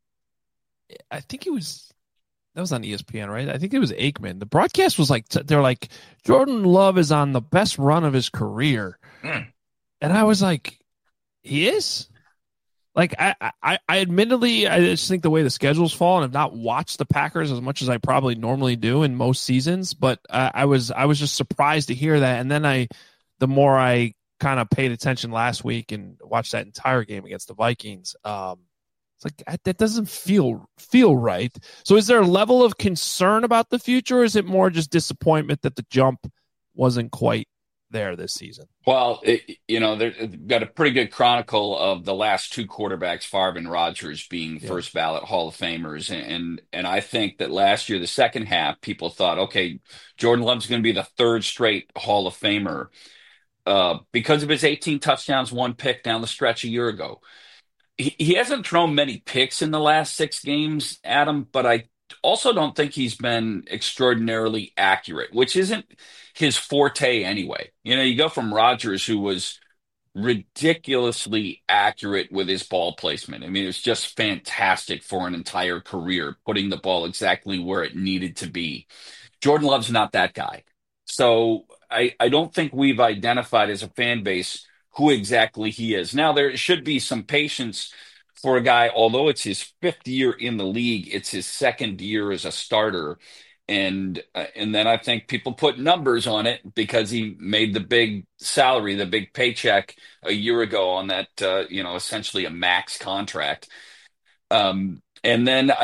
I think that was on ESPN, right? I think it was Aikman. The broadcast was like, they're like, Jordan Love is on the best run of his career. And I was like, he is? Like, I admittedly, I just think the way the schedules fall, and have not watched the Packers as much as I probably normally do in most seasons, but I was just surprised to hear that. And then the more I kind of paid attention last week and watched that entire game against the Vikings, it's like that doesn't feel right. So is there a level of concern about the future, or is it more just disappointment that the jump wasn't quite there this season? Well, they've got a pretty good chronicle of the last 2 quarterbacks, Favre and Rodgers, being first ballot Hall of Famers. And I think that last year, the second half, people thought, okay, Jordan Love's going to be the 3rd straight Hall of Famer because of his 18 touchdowns, 1 pick down the stretch a year ago. He hasn't thrown many picks in the last 6 games, Adam, but I also don't think he's been extraordinarily accurate, which isn't his forte anyway. You go from Rodgers, who was ridiculously accurate with his ball placement. I mean, it was just fantastic for an entire career, putting the ball exactly where it needed to be. Jordan Love's not that guy. So I don't think we've identified as a fan base who exactly he is. Now, there should be some patience for a guy, although it's his 5th year in the league, it's his 2nd year as a starter. And then I think people put numbers on it because he made the big salary, the big paycheck a year ago on that, essentially a max contract. And then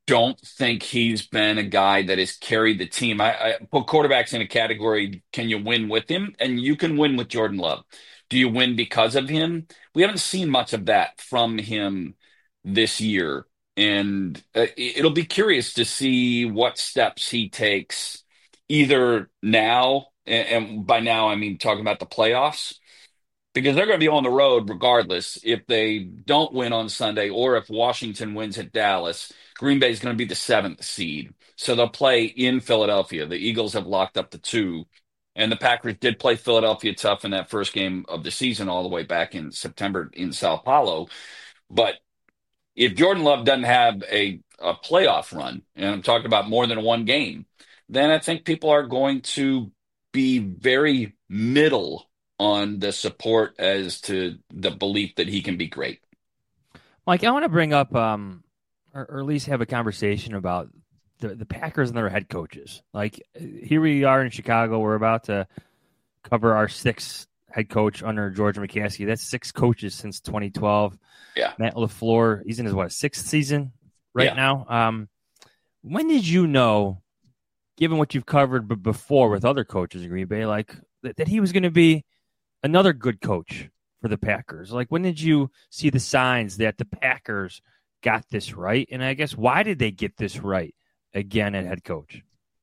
don't think he's been a guy that has carried the team. I put quarterbacks in a category, can you win with him? And you can win with Jordan Love. Do you win because of him? We haven't seen much of that from him this year. And it'll be curious to see what steps he takes either now, and by now I mean talking about the playoffs, because they're going to be on the road regardless. If they don't win on Sunday or if Washington wins at Dallas, Green Bay is going to be the seventh seed. So they'll play in Philadelphia. The Eagles have locked up the two. And the Packers did play Philadelphia tough in that first game of the season all the way back in September in Sao Paulo. But if Jordan Love doesn't have a playoff run, and I'm talking about more than one game, then I think people are going to be very middle on the support as to the belief that he can be great. Mike, I want to bring up, or at least have a conversation about the Packers and their head coaches. Like, here we are in Chicago. We're about to cover our sixth head coach under George McCaskey. That's 6 coaches since 2012. Yeah. Matt LaFleur, he's in his, 6th season right now. When did you know, given what you've covered before with other coaches in Green Bay, like that he was going to be another good coach for the Packers? Like, when did you see the signs that the Packers got this right? And I guess, why did they get this right again at head coach?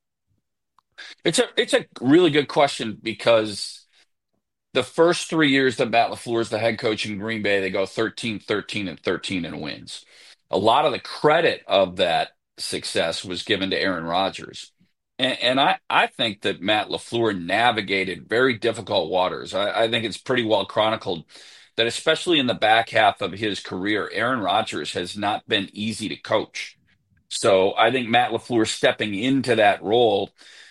It's a really good question, because the first 3 years that Matt LaFleur is the head coach in Green Bay, they go 13, 13, and 13 and wins. A lot of the credit of that success was given to Aaron Rodgers. And I think that Matt LaFleur navigated very difficult waters. I think it's pretty well chronicled that, especially in the back half of his career, Aaron Rodgers has not been easy to coach. So I think Matt LaFleur stepping into that role,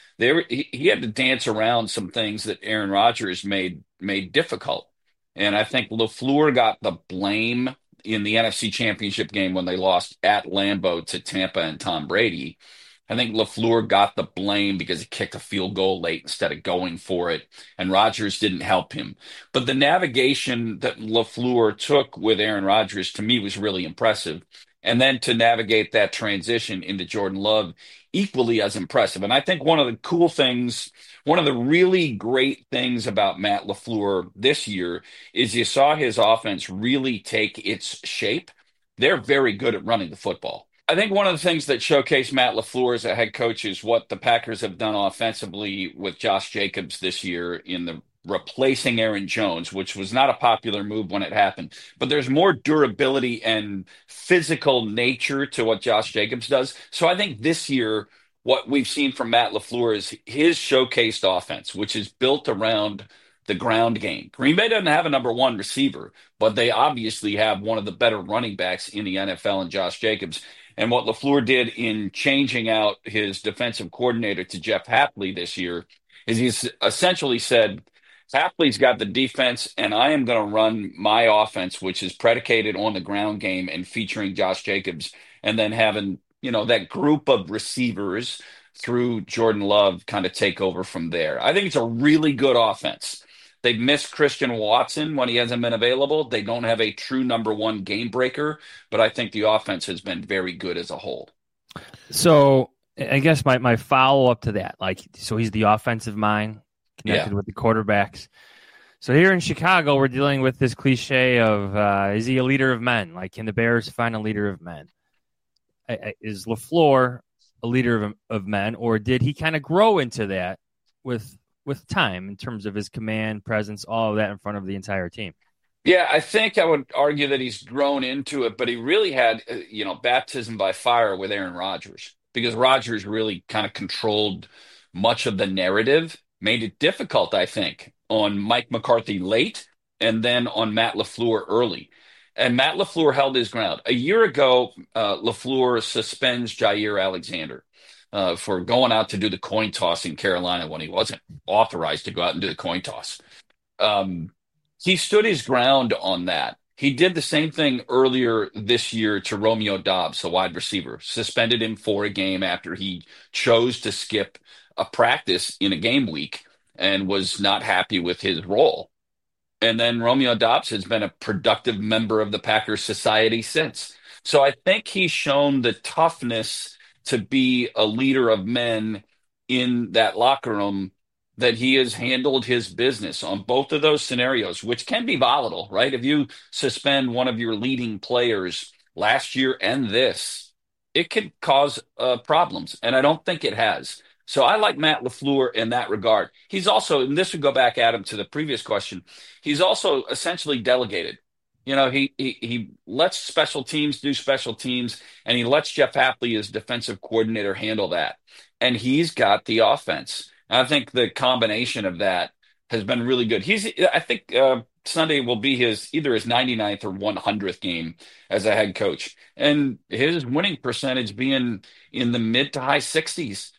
he had to dance around some things that Aaron Rodgers made difficult. And I think LaFleur got the blame in the NFC Championship game when they lost at Lambeau to Tampa and Tom Brady. I think LaFleur got the blame because he kicked a field goal late instead of going for it, and Rodgers didn't help him. But the navigation that LaFleur took with Aaron Rodgers, to me, was really impressive. And then to navigate that transition into Jordan Love, equally as impressive. And I think one of the cool things, one of the really great things about Matt LaFleur this year is you saw his offense really take its shape. They're very good at running the football. I think one of the things that showcased Matt LaFleur as a head coach is what the Packers have done offensively with Josh Jacobs this year in the replacing Aaron Jones, which was not a popular move when it happened. But there's more durability and physical nature to what Josh Jacobs does. So I think this year, what we've seen from Matt LaFleur is his showcased offense, which is built around the ground game. Green Bay doesn't have a number one receiver, but they obviously have one of the better running backs in the NFL in Josh Jacobs. And what LaFleur did in changing out his defensive coordinator to Jeff Hapley this year is he's essentially said, Hapley's got the defense, and I am going to run my offense, which is predicated on the ground game and featuring Josh Jacobs, and then having, that group of receivers through Jordan Love kind of take over from there. I think it's a really good offense. They've missed Christian Watson when he hasn't been available. They don't have a true number one game breaker, but I think the offense has been very good as a whole. So I guess my follow-up to that, so he's the offensive mind connected with the quarterbacks. So here in Chicago, we're dealing with this cliche of, is he a leader of men? Like, can the Bears find a leader of men? Is LaFleur a leader of men, or did he kind of grow into that with time in terms of his command, presence, all of that in front of the entire team? Yeah, I think I would argue that he's grown into it, but he really had, baptism by fire with Aaron Rodgers, because Rodgers really kind of controlled much of the narrative, made it difficult, I think, on Mike McCarthy late and then on Matt LaFleur early. And Matt LaFleur held his ground. A year ago, LaFleur suspends Jair Alexander for going out to do the coin toss in Carolina when he wasn't authorized to go out and do the coin toss. He stood his ground on that. He did the same thing earlier this year to Romeo Doubs, a wide receiver, suspended him for a game after he chose to skip a practice in a game week and was not happy with his role. And then Romeo Doubs has been a productive member of the Packers society since. So I think he's shown the toughness to be a leader of men in that locker room, that he has handled his business on both of those scenarios, which can be volatile, right? If you suspend one of your leading players last year and this, it could cause problems. And I don't think it has. So I like Matt LaFleur in that regard. He's also, and this would go back, Adam, to the previous question, he's also essentially delegated. You know, he lets special teams do special teams, and he lets Jeff Hapley, his defensive coordinator, handle that. And he's got the offense. And I think the combination of that has been really good. I think Sunday will be either his 99th or 100th game as a head coach, and his winning percentage being in the mid to high 60s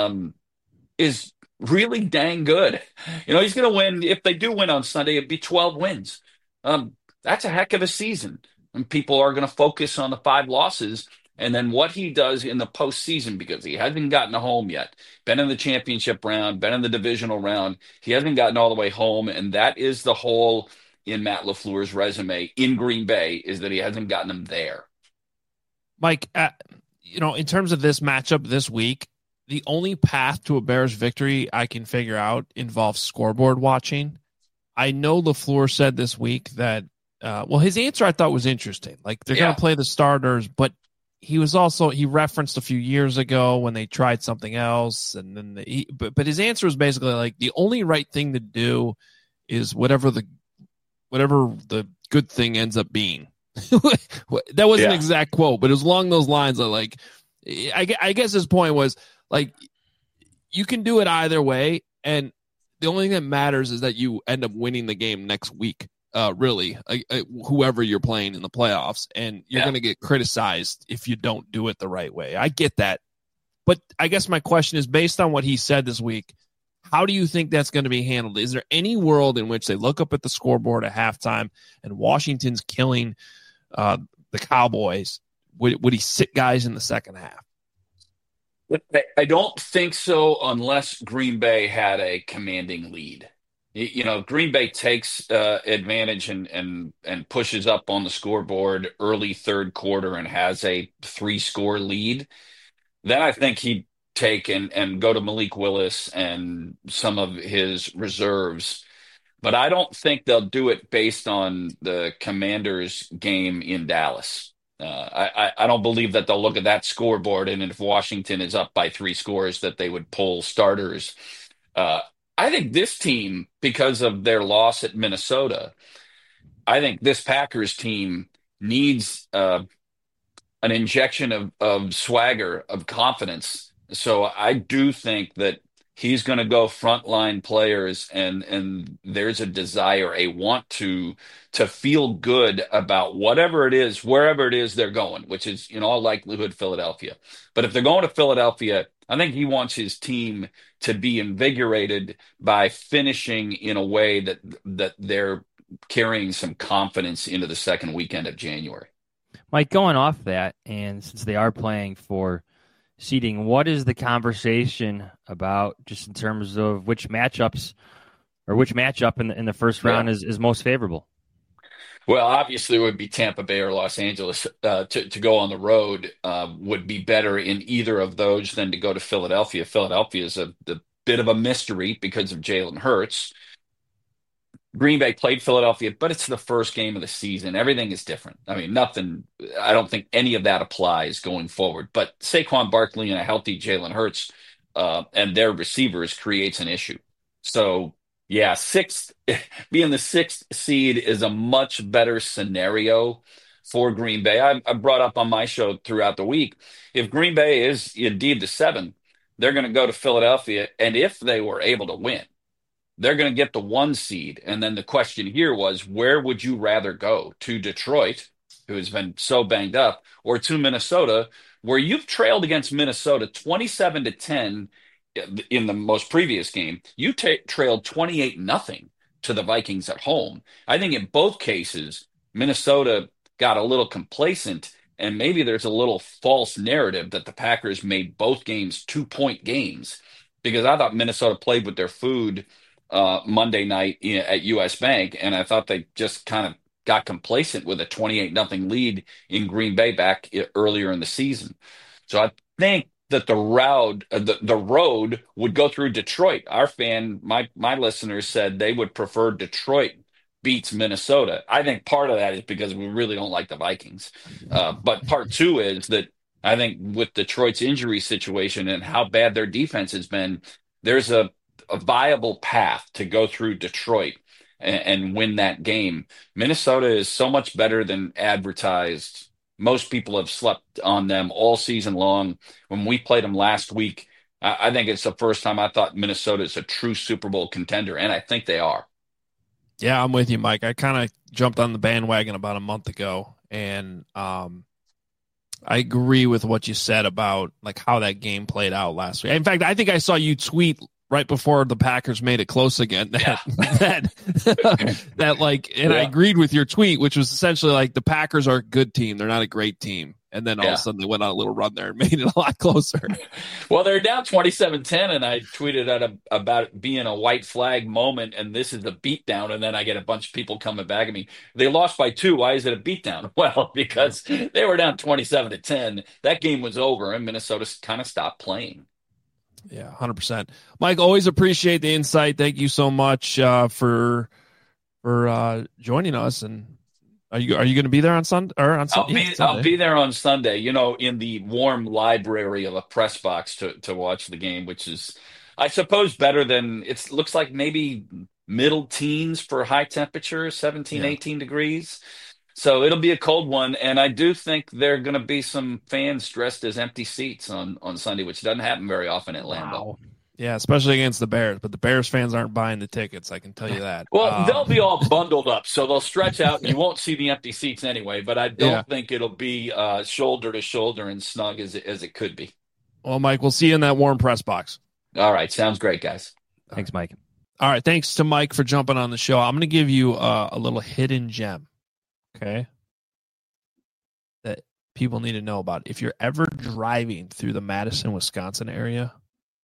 is really dang good. You know, he's going to win. If they do win on Sunday, it'd be 12 wins. That's a heck of a season. And people are going to focus on the 5 losses and then what he does in the postseason, because he hasn't gotten home yet. Been in the championship round, been in the divisional round. He hasn't gotten all the way home. And that is the hole in Matt LaFleur's resume in Green Bay, is that he hasn't gotten them there. Mike, you know, in terms of this matchup this week, the only path to a Bears victory I can figure out involves scoreboard watching. I know LaFleur said this week that, his answer I thought was interesting. Like, they're going to play the starters, but he referenced a few years ago when they tried something else. And then but his answer was basically like, the only right thing to do is whatever the good thing ends up being. That wasn't an exact quote, but it was along those lines of like, I guess his point was like, you can do it either way. And the only thing that matters is that you end up winning the game next week. Really, whoever you're playing in the playoffs, and you're going to get criticized if you don't do it the right way. I get that. But I guess my question is, based on what he said this week, how do you think that's going to be handled? Is there any world in which they look up at the scoreboard at halftime and Washington's killing the Cowboys? Would he sit guys in the second half? I don't think so, unless Green Bay had a commanding lead. You know, Green Bay takes advantage and pushes up on the scoreboard early third quarter and has a 3-score lead. Then I think he'd take and go to Malik Willis and some of his reserves. But I don't think they'll do it based on the Commanders' game in Dallas. I don't believe that they'll look at that scoreboard, and if Washington is up by 3 scores, that they would pull starters. I think this team, because of their loss at Minnesota, I think this Packers team needs an injection of swagger, of confidence. So I do think that he's going to go frontline players, and there's a desire, a want to feel good about whatever it is, wherever it is they're going, which is in all likelihood Philadelphia. But if they're going to Philadelphia, I think he wants his team to be invigorated by finishing in a way that they're carrying some confidence into the second weekend of January. Mike, going off that, and since they are playing for seeding, what is the conversation about, just in terms of which matchups or which matchup in the first round is most favorable? Well, obviously, it would be Tampa Bay or Los Angeles. To go on the road would be better in either of those than to go to Philadelphia. Philadelphia is a bit of a mystery because of Jalen Hurts. Green Bay played Philadelphia, but it's the first game of the season. Everything is different. I mean, I don't think any of that applies going forward. But Saquon Barkley and a healthy Jalen Hurts and their receivers creates an issue. So, yeah, being the 6th seed is a much better scenario for Green Bay. I brought up on my show throughout the week, if Green Bay is indeed the 7, they're going to go to Philadelphia. And if they were able to win, they're going to get the 1 seed. And then the question here was, where would you rather go? To Detroit, who has been so banged up, or to Minnesota, where you've trailed against Minnesota 27-10 in the most previous game. You trailed 28-0 to the Vikings at home. I think in both cases, Minnesota got a little complacent, and maybe there's a little false narrative that the Packers made both games 2-point games, because I thought Minnesota played with their food Monday night at US Bank, and I thought they just kind of got complacent with a 28-0 lead in Green Bay back earlier in the season. So I think that the road would go through Detroit. My listeners said they would prefer Detroit beats Minnesota. I think part of that is because we really don't like the Vikings. But part two is that I think with Detroit's injury situation and how bad their defense has been, there's a viable path to go through Detroit and win that game. Minnesota is so much better than advertised. Most people have slept on them all season long. When we played them last week, I think it's the first time I thought Minnesota is a true Super Bowl contender, and I think they are. Yeah, I'm with you, Mike. I kind of jumped on the bandwagon about a month ago, and I agree with what you said about like how that game played out last week. In fact, I think I saw you tweet right before the Packers made it close again that like, and I agreed with your tweet, which was essentially like the Packers are a good team. They're not a great team. And then all of a sudden they went on a little run there and made it a lot closer. Well, they're down 27-10, and I tweeted about it being a white flag moment, and this is a beatdown, and then I get a bunch of people coming back at me. They lost by 2. Why is it a beatdown? Well, because they were down 27-10. That game was over, and Minnesota kind of stopped playing. Yeah, 100%. Mike, always appreciate the insight. Thank you so much for joining us. And are you going to be there on Sunday? Or on Sunday? I'll be there on Sunday. In the warm library of a press box to watch the game, which is, I suppose, better than it looks like. Maybe middle teens for high temperature, 17, 18 degrees. So it'll be a cold one, and I do think there are going to be some fans dressed as empty seats on Sunday, which doesn't happen very often at Lambeau. Wow. Yeah, especially against the Bears, but the Bears fans aren't buying the tickets, I can tell you that. Well, they'll be all bundled up, so they'll stretch out, and you won't see the empty seats anyway, but I don't think it'll be shoulder to shoulder and snug as it could be. Well, Mike, we'll see you in that warm press box. All right, sounds great, guys. Thanks, Mike. All right, thanks to Mike for jumping on the show. I'm going to give you a little hidden gem. Okay, that people need to know about. If you're ever driving through the Madison, Wisconsin area,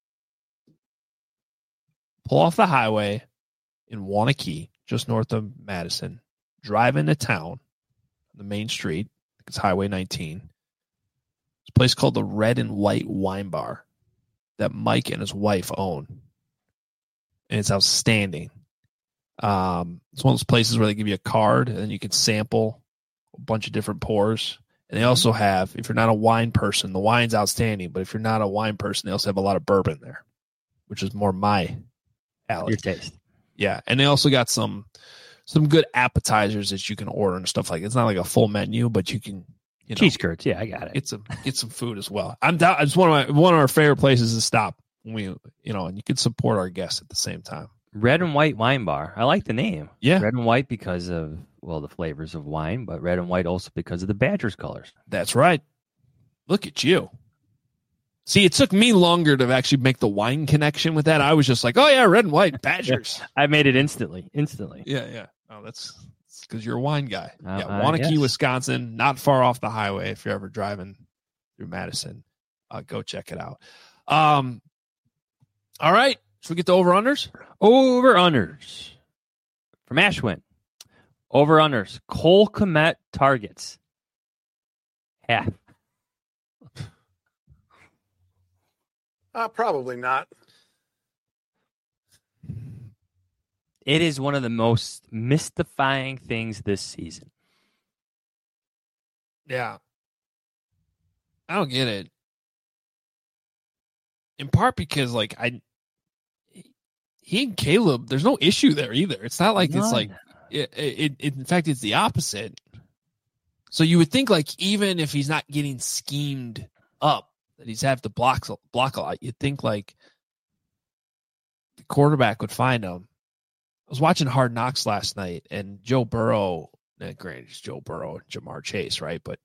pull off the highway in Waunakee, just north of Madison, drive into town, the main street, it's Highway 19. It's a place called the Red and White Wine Bar that Mike and his wife own. And it's outstanding. It's one of those places where they give you a card and then you can sample a bunch of different pours. And they also have, if you're not a wine person, the wine's outstanding. But if you're not a wine person, they also have a lot of bourbon there, which is more my alley. Your taste. Yeah. And they also got some good appetizers that you can order and stuff like that. It's not like a full menu, but you can, cheese curds. Yeah, I got it. Get some food as well. It's one of our favorite places to stop when we, and you can support our guests at the same time. Red and White Wine Bar. I like the name. Yeah. Red and white because of, the flavors of wine, but red and white also because of the Badgers colors. That's right. Look at you. See, it took me longer to actually make the wine connection with that. I was just like, oh, yeah, red and white, Badgers. I made it instantly. Yeah. Oh, that's because you're a wine guy. Waunakee, Wisconsin, not far off the highway. If you're ever driving through Madison, go check it out. All right. Should we get to over-unders? Over-unders. From Ashwin. Over-unders. Cole Kmet targets. Half. Probably not. It is one of the most mystifying things this season. Yeah. I don't get it. In part because, he and Caleb, there's no issue there either. It's not like it's like, in fact, it's the opposite. So you would think, even if he's not getting schemed up, that he's have to block a lot, you'd think, the quarterback would find him. I was watching Hard Knocks last night, and Joe Burrow, granted, it's Joe Burrow and Jamar Chase, right? But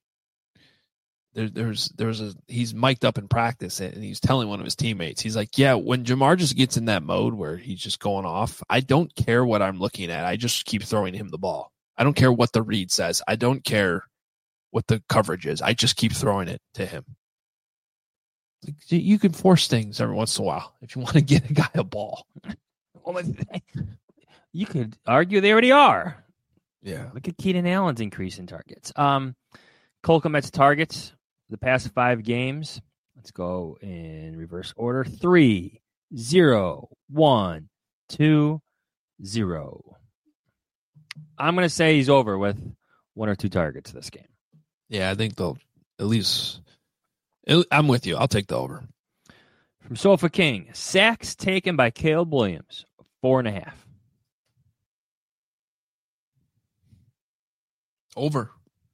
he's mic'd up in practice, and he's telling one of his teammates, he's like, yeah, when Jamar just gets in that mode where he's just going off, I don't care what I'm looking at. I just keep throwing him the ball. I don't care what the read says. I don't care what the coverage is. I just keep throwing it to him. You can force things every once in a while if you want to get a guy a ball. You could argue they already are. Yeah. Look at Keenan Allen's increase in targets. Cole Kmet's targets the past 5 games. Let's go in reverse order. 3, 0, 1, 2, 0. I'm going to say he's over with 1 or 2 targets this game. Yeah, I think they'll at least. I'm with you. I'll take the over. From Sofa King, sacks taken by Caleb Williams, 4.5. Over.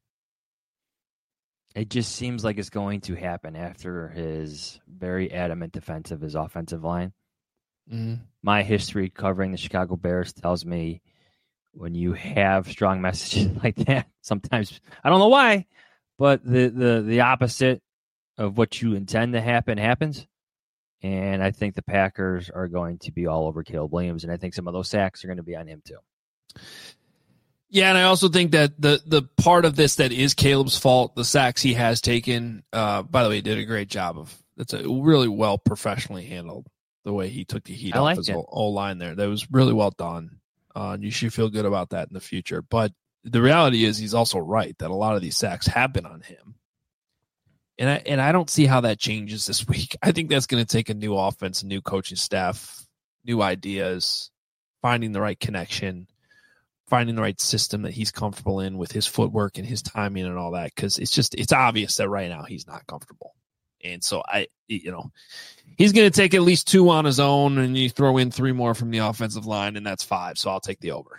It just seems like it's going to happen after his very adamant defense of his offensive line. Mm-hmm. My history covering the Chicago Bears tells me when you have strong messages like that, sometimes, I don't know why, but the opposite of what you intend to happen happens. And I think the Packers are going to be all over Caleb Williams, and I think some of those sacks are going to be on him too. Yeah, and I also think that the part of this that is Caleb's fault, the sacks he has taken, by the way, he did a great job of. It's a really well professionally handled the way he took the heat off his whole line there. That was really well done. You should feel good about that in the future. But the reality is he's also right that a lot of these sacks have been on him. And I don't see how that changes this week. I think that's going to take a new offense, a new coaching staff, new ideas, finding the right connection, finding the right system that he's comfortable in with his footwork and his timing and all that. Because it's obvious that right now he's not comfortable. And so he's going to take at least 2 on his own, and you throw in 3 more from the offensive line, and that's 5. So I'll take the over.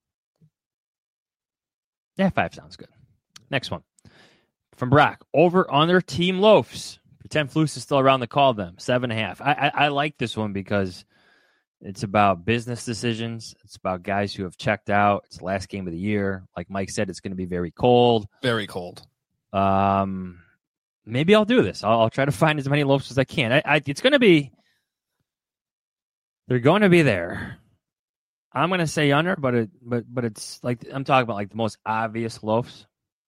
Yeah, 5 sounds good. Next one. From Brock, over under team loafs. Pretend Flus is still around to call them. 7.5. I like this one because it's about business decisions. It's about guys who have checked out. It's the last game of the year. Like Mike said, it's going to be very cold. Very cold. Maybe I'll do this. I'll try to find as many loafs as I can. It's going to be. They're going to be there. I'm going to say under, but it's like I'm talking about like the most obvious loafs,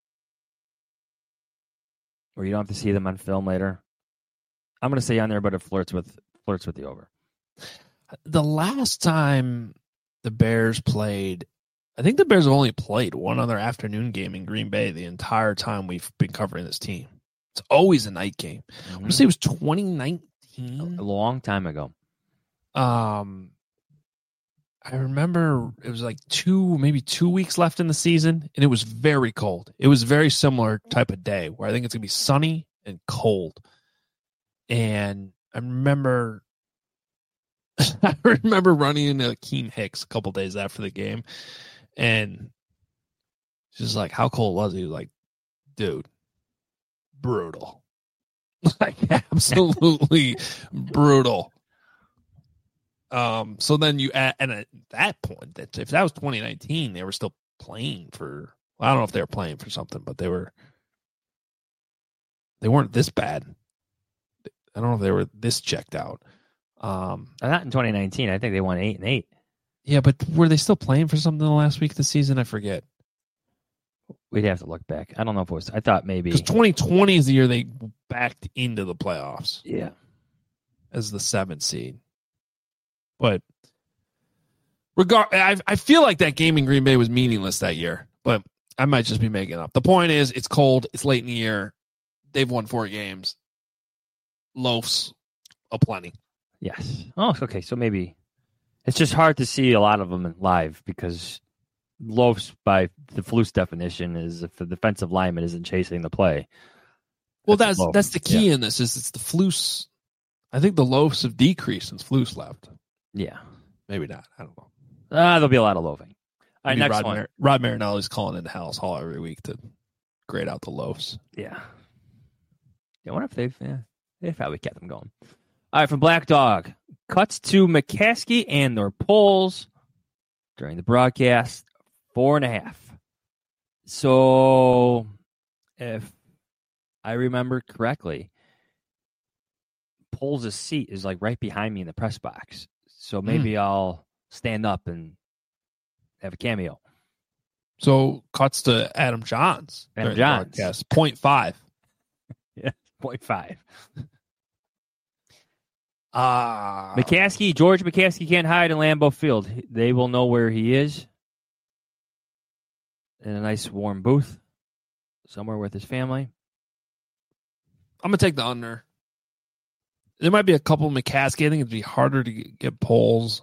where you don't have to see them on film later. I'm going to say under, but it flirts with the over. The last time the Bears played, I think the Bears have only played one other afternoon game in Green Bay the entire time we've been covering this team. It's always a night game. I want to say it was 2019. A long time ago. I remember it was like 2 weeks left in the season, and it was very cold. It was a very similar type of day where I think it's going to be sunny and cold. And I remember running into Akeem Hicks a couple days after the game, and she's like, how cold was it? He was like, dude, brutal. Like, absolutely brutal. So then you add, and at that point, that if that was 2019, they were still playing for. Well, I don't know if they were playing for something, but they weren't this bad. I don't know if they were this checked out. Not in 2019. I think they won 8-8. Yeah, but were they still playing for something the last week of the season? I forget. We'd have to look back. I don't know if it was. I thought maybe because 2020 is the year they backed into the playoffs. Yeah, as the 7th seed. But I feel like that game in Green Bay was meaningless that year, but I might just be making it up. The point is, it's cold. It's late in the year. They've won 4 games. Loafs aplenty. Yes. Oh, okay. So maybe it's just hard to see a lot of them live because loafs, by the Flus definition, is if the defensive lineman isn't chasing the play. Well, that's the key in this. Is it's the Flus. I think the loafs have decreased since Flus left. Yeah. Maybe not. I don't know. There'll be a lot of loafing. All right, next one. Rod Marinelli's calling into Hal's Hall every week to grade out the loafs. Yeah. I wonder if they've probably kept them going. All right, from Black Dog. Cuts to McCaskey and their polls during the broadcast. 4.5. So, if I remember correctly, Poles' seat is like right behind me in the press box. So maybe I'll stand up and have a cameo. So cuts to Adam Johns. Adam Johns. Yes, 0.5. Yeah, 0.5. George McCaskey can't hide in Lambeau Field. They will know where he is. in a nice warm booth somewhere with his family. I'm going to take the under. There might be a couple McCaskey. I think it'd be harder to get polls.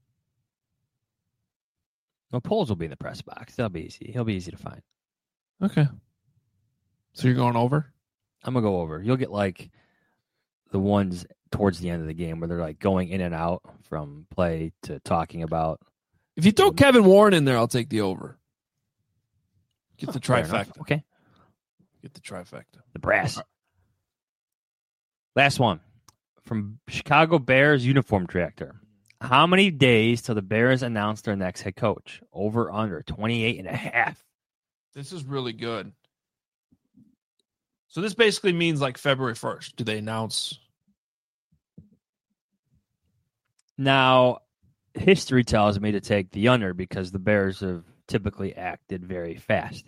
Well, polls will be in the press box. That'll be easy. He'll be easy to find. Okay. So you're going over? I'm going to go over. You'll get like the ones towards the end of the game where they're like going in and out from play to talking about. If you throw Kevin Warren in there, I'll take the over. Get the Fair enough. trifecta. Okay. Get the trifecta. The brass. Last one from Chicago Bears uniform tractor. How many days till the Bears announce their next head coach? Over, under, 28.5. This is really good. So this basically means like February 1st. Do they announce? Now, history tells me to take the under because the Bears have typically acted very fast.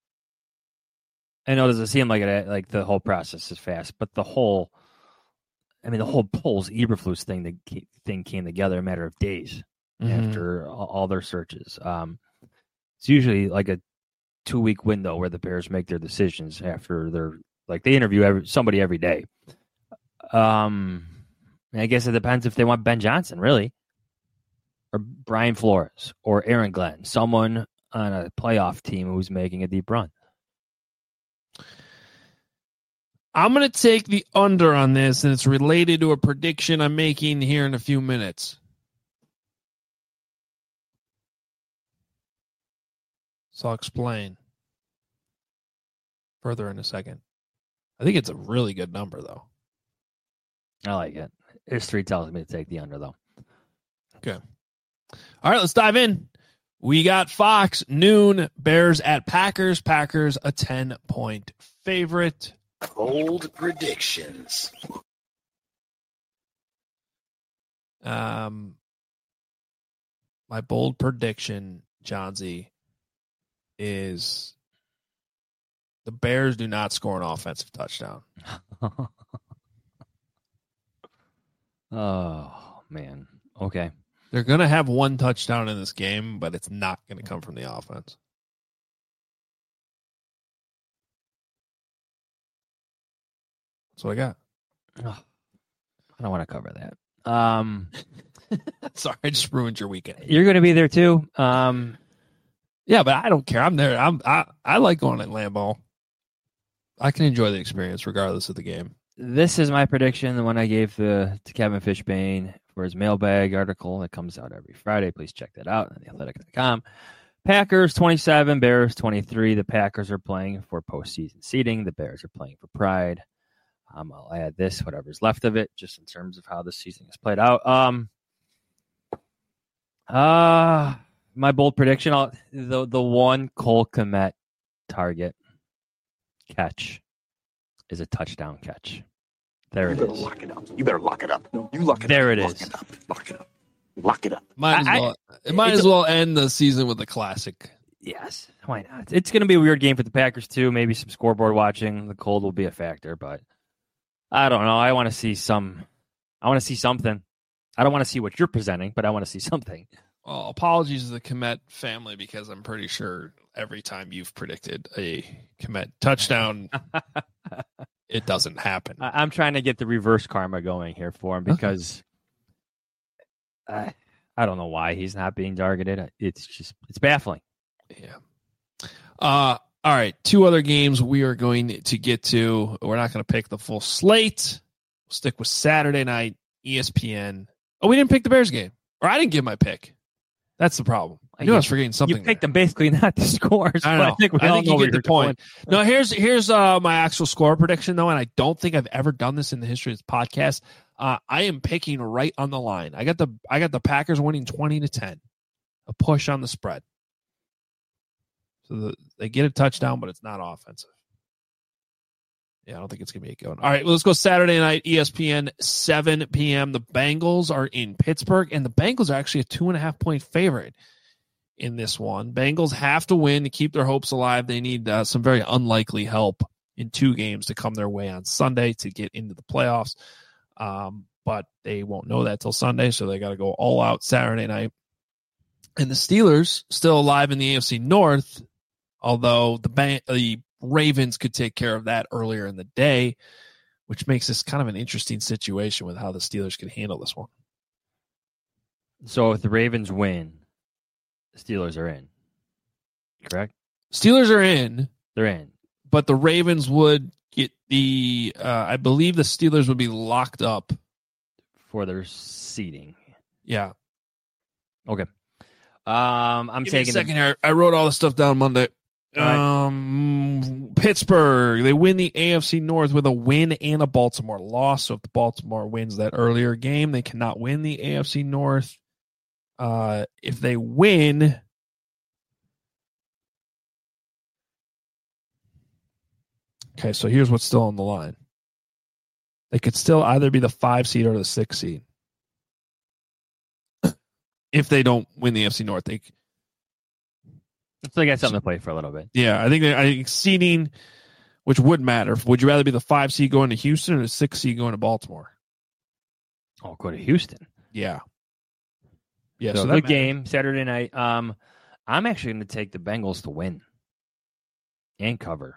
I know it doesn't seem like it, like the whole process is fast, but the whole Poles Eberflus thing came together in a matter of days after all their searches. It's usually like a 2-week window where the Bears make their decisions after they interview somebody every day. I guess it depends if they want Ben Johnson, really, or Brian Flores, or Aaron Glenn, someone on a playoff team who's making a deep run. I'm going to take the under on this, and it's related to a prediction I'm making here in a few minutes. So I'll explain further in a second. I think it's a really good number, though. I like it. History tells me to take the under, though. Okay. All right, let's dive in. We got Fox, noon, Bears at Packers. Packers, a 10-point favorite. Bold predictions. My bold prediction, Johnsy, is the Bears do not score an offensive touchdown. Oh, man. Okay. They're going to have one touchdown in this game, but it's not going to come from the offense. That's what I got. Oh, I don't want to cover that. Sorry, I just ruined your weekend. You're going to be there too. Yeah, but I don't care. I'm there. I like going at Lambeau. I can enjoy the experience regardless of the game. This is my prediction, the one I gave to Kevin Fishbane for his mailbag article that comes out every Friday. Please check that out on theathletic.com. Packers 27, Bears 23. The Packers are playing for postseason seeding. The Bears are playing for pride. I'll add this, whatever's left of it, just in terms of how the season is played out. My bold prediction, the one Cole Kmet target catch is a touchdown catch. There it is. Lock it up. You better lock it up. No, you lock it there up. It lock is. It up. Lock it up. Lock it up. Might as well end the season with a classic. Yes, why not? It's going to be a weird game for the Packers too. Maybe some scoreboard watching. The cold will be a factor, but I don't know. I want to see something. I don't want to see what you're presenting, but I want to see something. Well, apologies to the Kmet family because I'm pretty sure every time you've predicted a Kmet touchdown, it doesn't happen. I'm trying to get the reverse karma going here for him because I don't know why he's not being targeted. It's baffling. Yeah. All right. 2 other games we are going to get to. We're not going to pick the full slate. We'll stick with Saturday night, ESPN. Oh, we didn't pick the Bears game. Or I didn't give my pick. That's the problem. I knew I was forgetting something. You picked them basically not the scores. I know. I think you get the point. No, here's my actual score prediction, though, and I don't think I've ever done this in the history of this podcast. I am picking right on the line. I got the Packers winning 20-10. A push on the spread. So they get a touchdown, but it's not offensive. Yeah, I don't think it's going to be a good one. All right, well, let's go Saturday night, ESPN, 7 p.m. The Bengals are in Pittsburgh, and the Bengals are actually a 2.5-point favorite in this one. Bengals have to win to keep their hopes alive. They need some very unlikely help in 2 games to come their way on Sunday to get into the playoffs. But they won't know that till Sunday, so they got to go all out Saturday night. And the Steelers, still alive in the AFC North, Although the Ravens could take care of that earlier in the day, which makes this kind of an interesting situation with how the Steelers can handle this one. So if the Ravens win, the Steelers are in. Correct? Steelers are in. They're in. But the Ravens would get I believe the Steelers would be locked up For their seeding. Yeah. Okay. I'm Give me a taking second here. I wrote all this stuff down Monday. Pittsburgh, they win the AFC North with a win and a Baltimore loss. So if the Baltimore wins that earlier game, they cannot win the AFC North. If they win, okay, so here's what's still on the line. They could still either be the 5 seed or the 6 seed. If they don't win the AFC North, So they got something to play for a little bit. yeah, I think seeding, which would matter. Would you rather be the 5 seed going to Houston or the 6 seed going to Baltimore? Oh, go to Houston. Yeah. Yeah, So that good matters. game Saturday night. I'm actually going to take the Bengals to win and cover.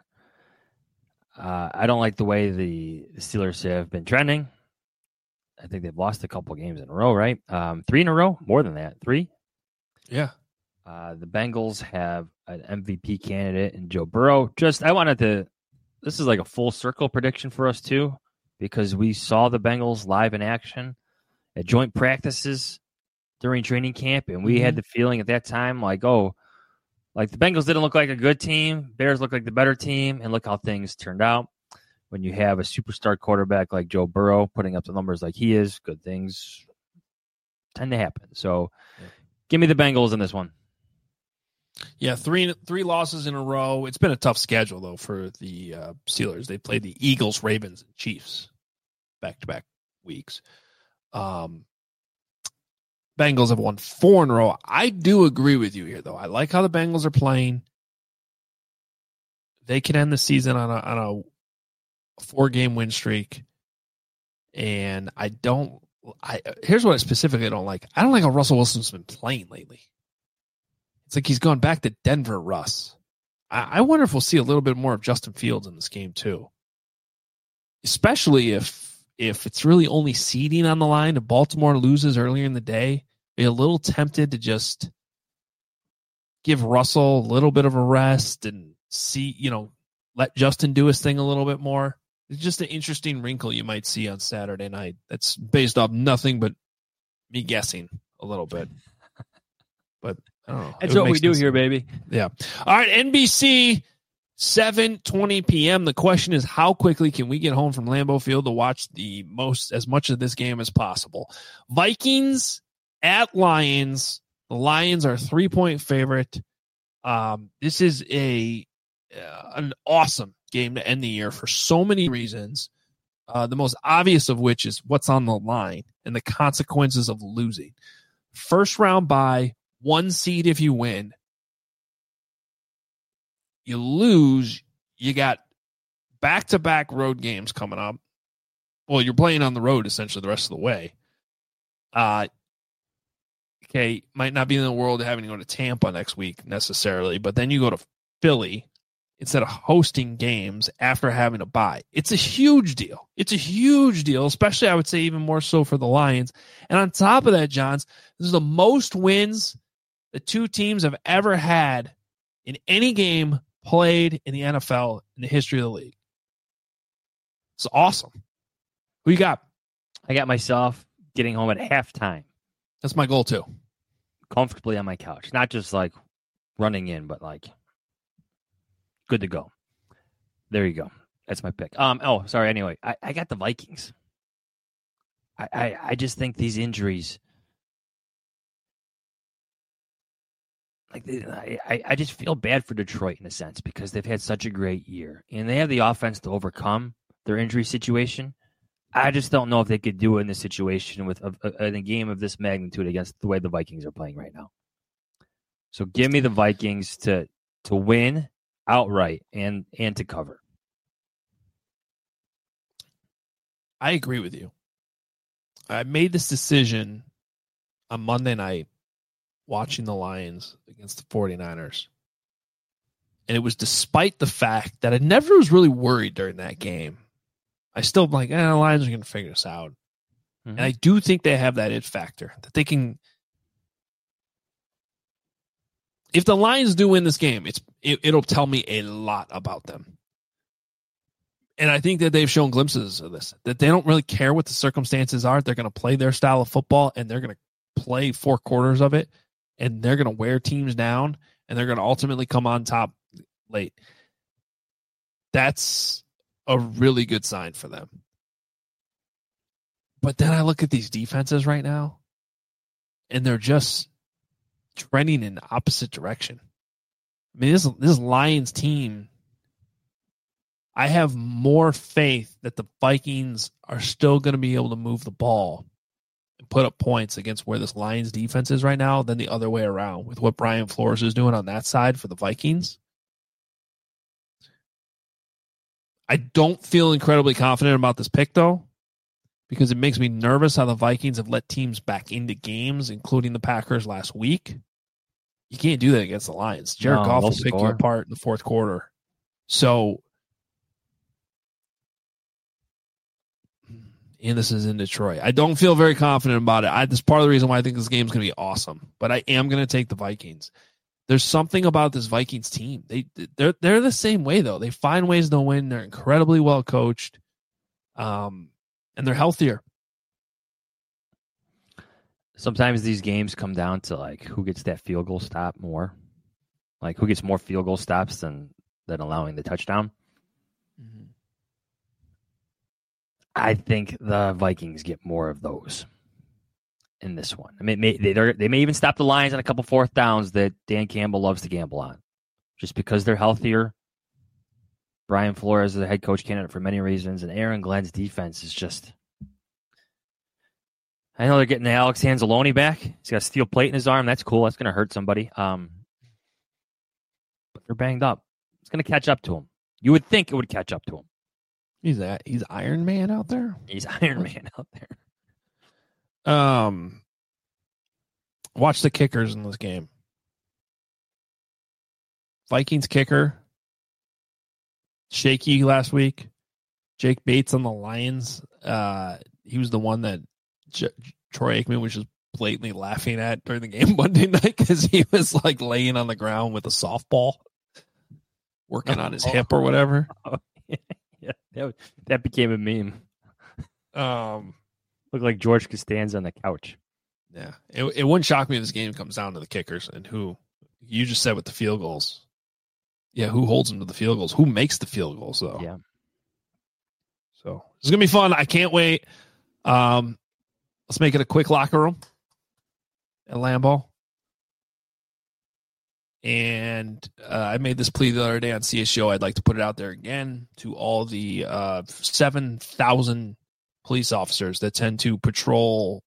I don't like the way the Steelers have been trending. I think they've lost a couple games in a row, right? 3 in a row, more than that, 3. Yeah. The Bengals have an MVP candidate in Joe Burrow. This is like a full circle prediction for us too, because we saw the Bengals live in action at joint practices during training camp, and we had the feeling at that time like the Bengals didn't look like a good team, Bears looked like the better team, and look how things turned out. When you have a superstar quarterback like Joe Burrow putting up the numbers like he is, good things tend to happen. So give me the Bengals in this one. Yeah, three losses in a row. It's been a tough schedule, though, for the Steelers. They played the Eagles, Ravens, and Chiefs back-to-back weeks. Bengals have won 4 in a row. I do agree with you here, though. I like how the Bengals are playing. They can end the season on a 4-game win streak. And here's what I specifically don't like. I don't like how Russell Wilson's been playing lately. It's like he's gone back to Denver, Russ. I wonder if we'll see a little bit more of Justin Fields in this game, too. Especially if it's really only seeding on the line, if Baltimore loses earlier in the day, be a little tempted to just give Russell a little bit of a rest and let Justin do his thing a little bit more. It's just an interesting wrinkle you might see on Saturday night. That's based off nothing but me guessing a little bit. But I don't know. That's what we do here, baby. Yeah. All right, NBC, 7:20 p.m. The question is, how quickly can we get home from Lambeau Field to watch as much of this game as possible? Vikings at Lions. The Lions are 3-point favorite. This is an awesome game to end the year for so many reasons. The most obvious of which is what's on the line and the consequences of losing. First round bye, 1 seed if you win. You lose, you got back-to-back road games coming up. Well, you're playing on the road essentially the rest of the way. Okay, might not be in the world having to go to Tampa next week necessarily, but then you go to Philly instead of hosting games after having a bye. It's a huge deal. It's a huge deal, especially I would say even more so for the Lions. And on top of that, Johns, this is the most wins the two teams have ever had in any game played in the NFL in the history of the league. It's awesome. Who you got? I got myself getting home at halftime. That's my goal too. Comfortably on my couch. Not just like running in, but like good to go. There you go. That's my pick. Sorry. Anyway, I got the Vikings. I just think these injuries, I just feel bad for Detroit in a sense because they've had such a great year and they have the offense to overcome their injury situation. I just don't know if they could do it in this situation with in a game of this magnitude against the way the Vikings are playing right now. So give me the Vikings to win outright and to cover. I agree with you. I made this decision on Monday night watching the Lions against the 49ers. And it was despite the fact that I never was really worried during that game. I still like, the Lions are going to figure this out. And I do think they have that it factor that they can. If the Lions do win this game, it'll tell me a lot about them. And I think that they've shown glimpses of this, that they don't really care what the circumstances are. They're going to play their style of football, and they're going to play 4 quarters of it, and they're going to wear teams down, and they're going to ultimately come on top late. That's a really good sign for them. But then I look at these defenses right now, and they're just trending in the opposite direction. I mean, this Lions team, I have more faith that the Vikings are still going to be able to move the ball and put up points against where this Lions defense is right now than the other way around with what Brian Flores is doing on that side for the Vikings. I don't feel incredibly confident about this pick, though, because it makes me nervous how the Vikings have let teams back into games, including the Packers last week. You can't do that against the Lions. Jared Goff will pick you apart in the fourth quarter. So, and this is in Detroit. I don't feel very confident about it. This is part of the reason why I think this game is going to be awesome. But I am going to take the Vikings. There's something about this Vikings team. They're the same way, though. They find ways to win. They're incredibly well coached. And they're healthier. Sometimes these games come down to like who gets that field goal stop more, like who gets more field goal stops than allowing the touchdown. Mm-hmm. I think the Vikings get more of those in this one. I mean, they may even stop the Lions on a couple fourth downs that Dan Campbell loves to gamble on, just because they're healthier. Brian Flores is a head coach candidate for many reasons, and Aaron Glenn's defense is just. I know they're getting the Alex Anzalone back. He's got a steel plate in his arm. That's cool. That's going to hurt somebody. But they're banged up. It's going to catch up to him. You would think it would catch up to him. He's Iron Man out there. He's Iron Man out there. Watch the kickers in this game. Vikings kicker, shaky last week. Jake Bates on the Lions. He was the one that Troy Aikman was just blatantly laughing at during the game Monday night because he was like laying on the ground with a softball, working on his hip or whatever. Yeah, that became a meme. Looked like George Costanza on the couch. Yeah, it wouldn't shock me if this game comes down to the kickers and who you just said with the field goals. Yeah, who holds them to the field goals? Who makes the field goals though? Yeah. So it's gonna be fun. I can't wait. Let's make it a quick locker room at Lambeau. And I made this plea the other day on CSGO. I'd like to put it out there again to all the 7,000 police officers that tend to patrol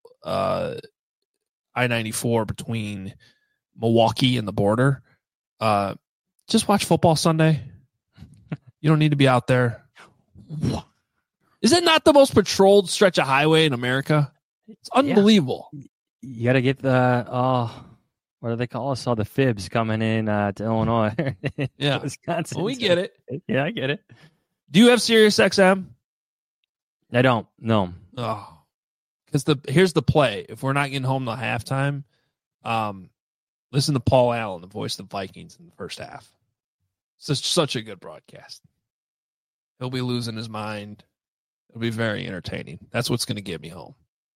I-94 between Milwaukee and the border. Just watch football Sunday. You don't need to be out there. Is it not the most patrolled stretch of highway in America? It's unbelievable. Yeah. You got to get the, what do they call us? All the fibs coming in to Illinois. Yeah. Wisconsin. Well, we get it. Yeah, I get it. Do you have Sirius XM? I don't. No. Oh, because here's the play. If we're not getting home till halftime, listen to Paul Allen, the voice of the Vikings in the first half. It's such a good broadcast. He'll be losing his mind. It'll be very entertaining. That's what's going to get me home.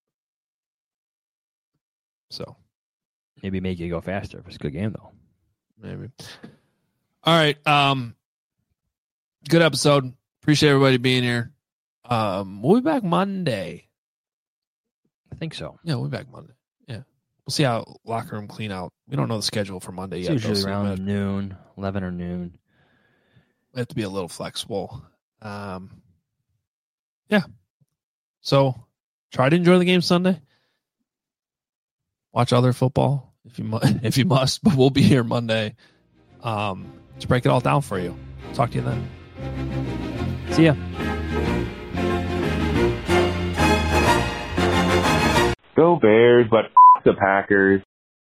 So maybe make you go faster if it's a good game, though. Maybe. All right. Good episode. Appreciate everybody being here. We'll be back Monday. I think so. Yeah, we'll be back Monday. Yeah. We'll see how locker room clean out. We don't know the schedule for Monday it's yet. Usually around noon, 11 or noon. We have to be a little flexible. Yeah. So try to enjoy the game Sunday. Watch other football if you must, but we'll be here Monday to break it all down for you. Talk to you then. See ya. Go Bears, but the Packers.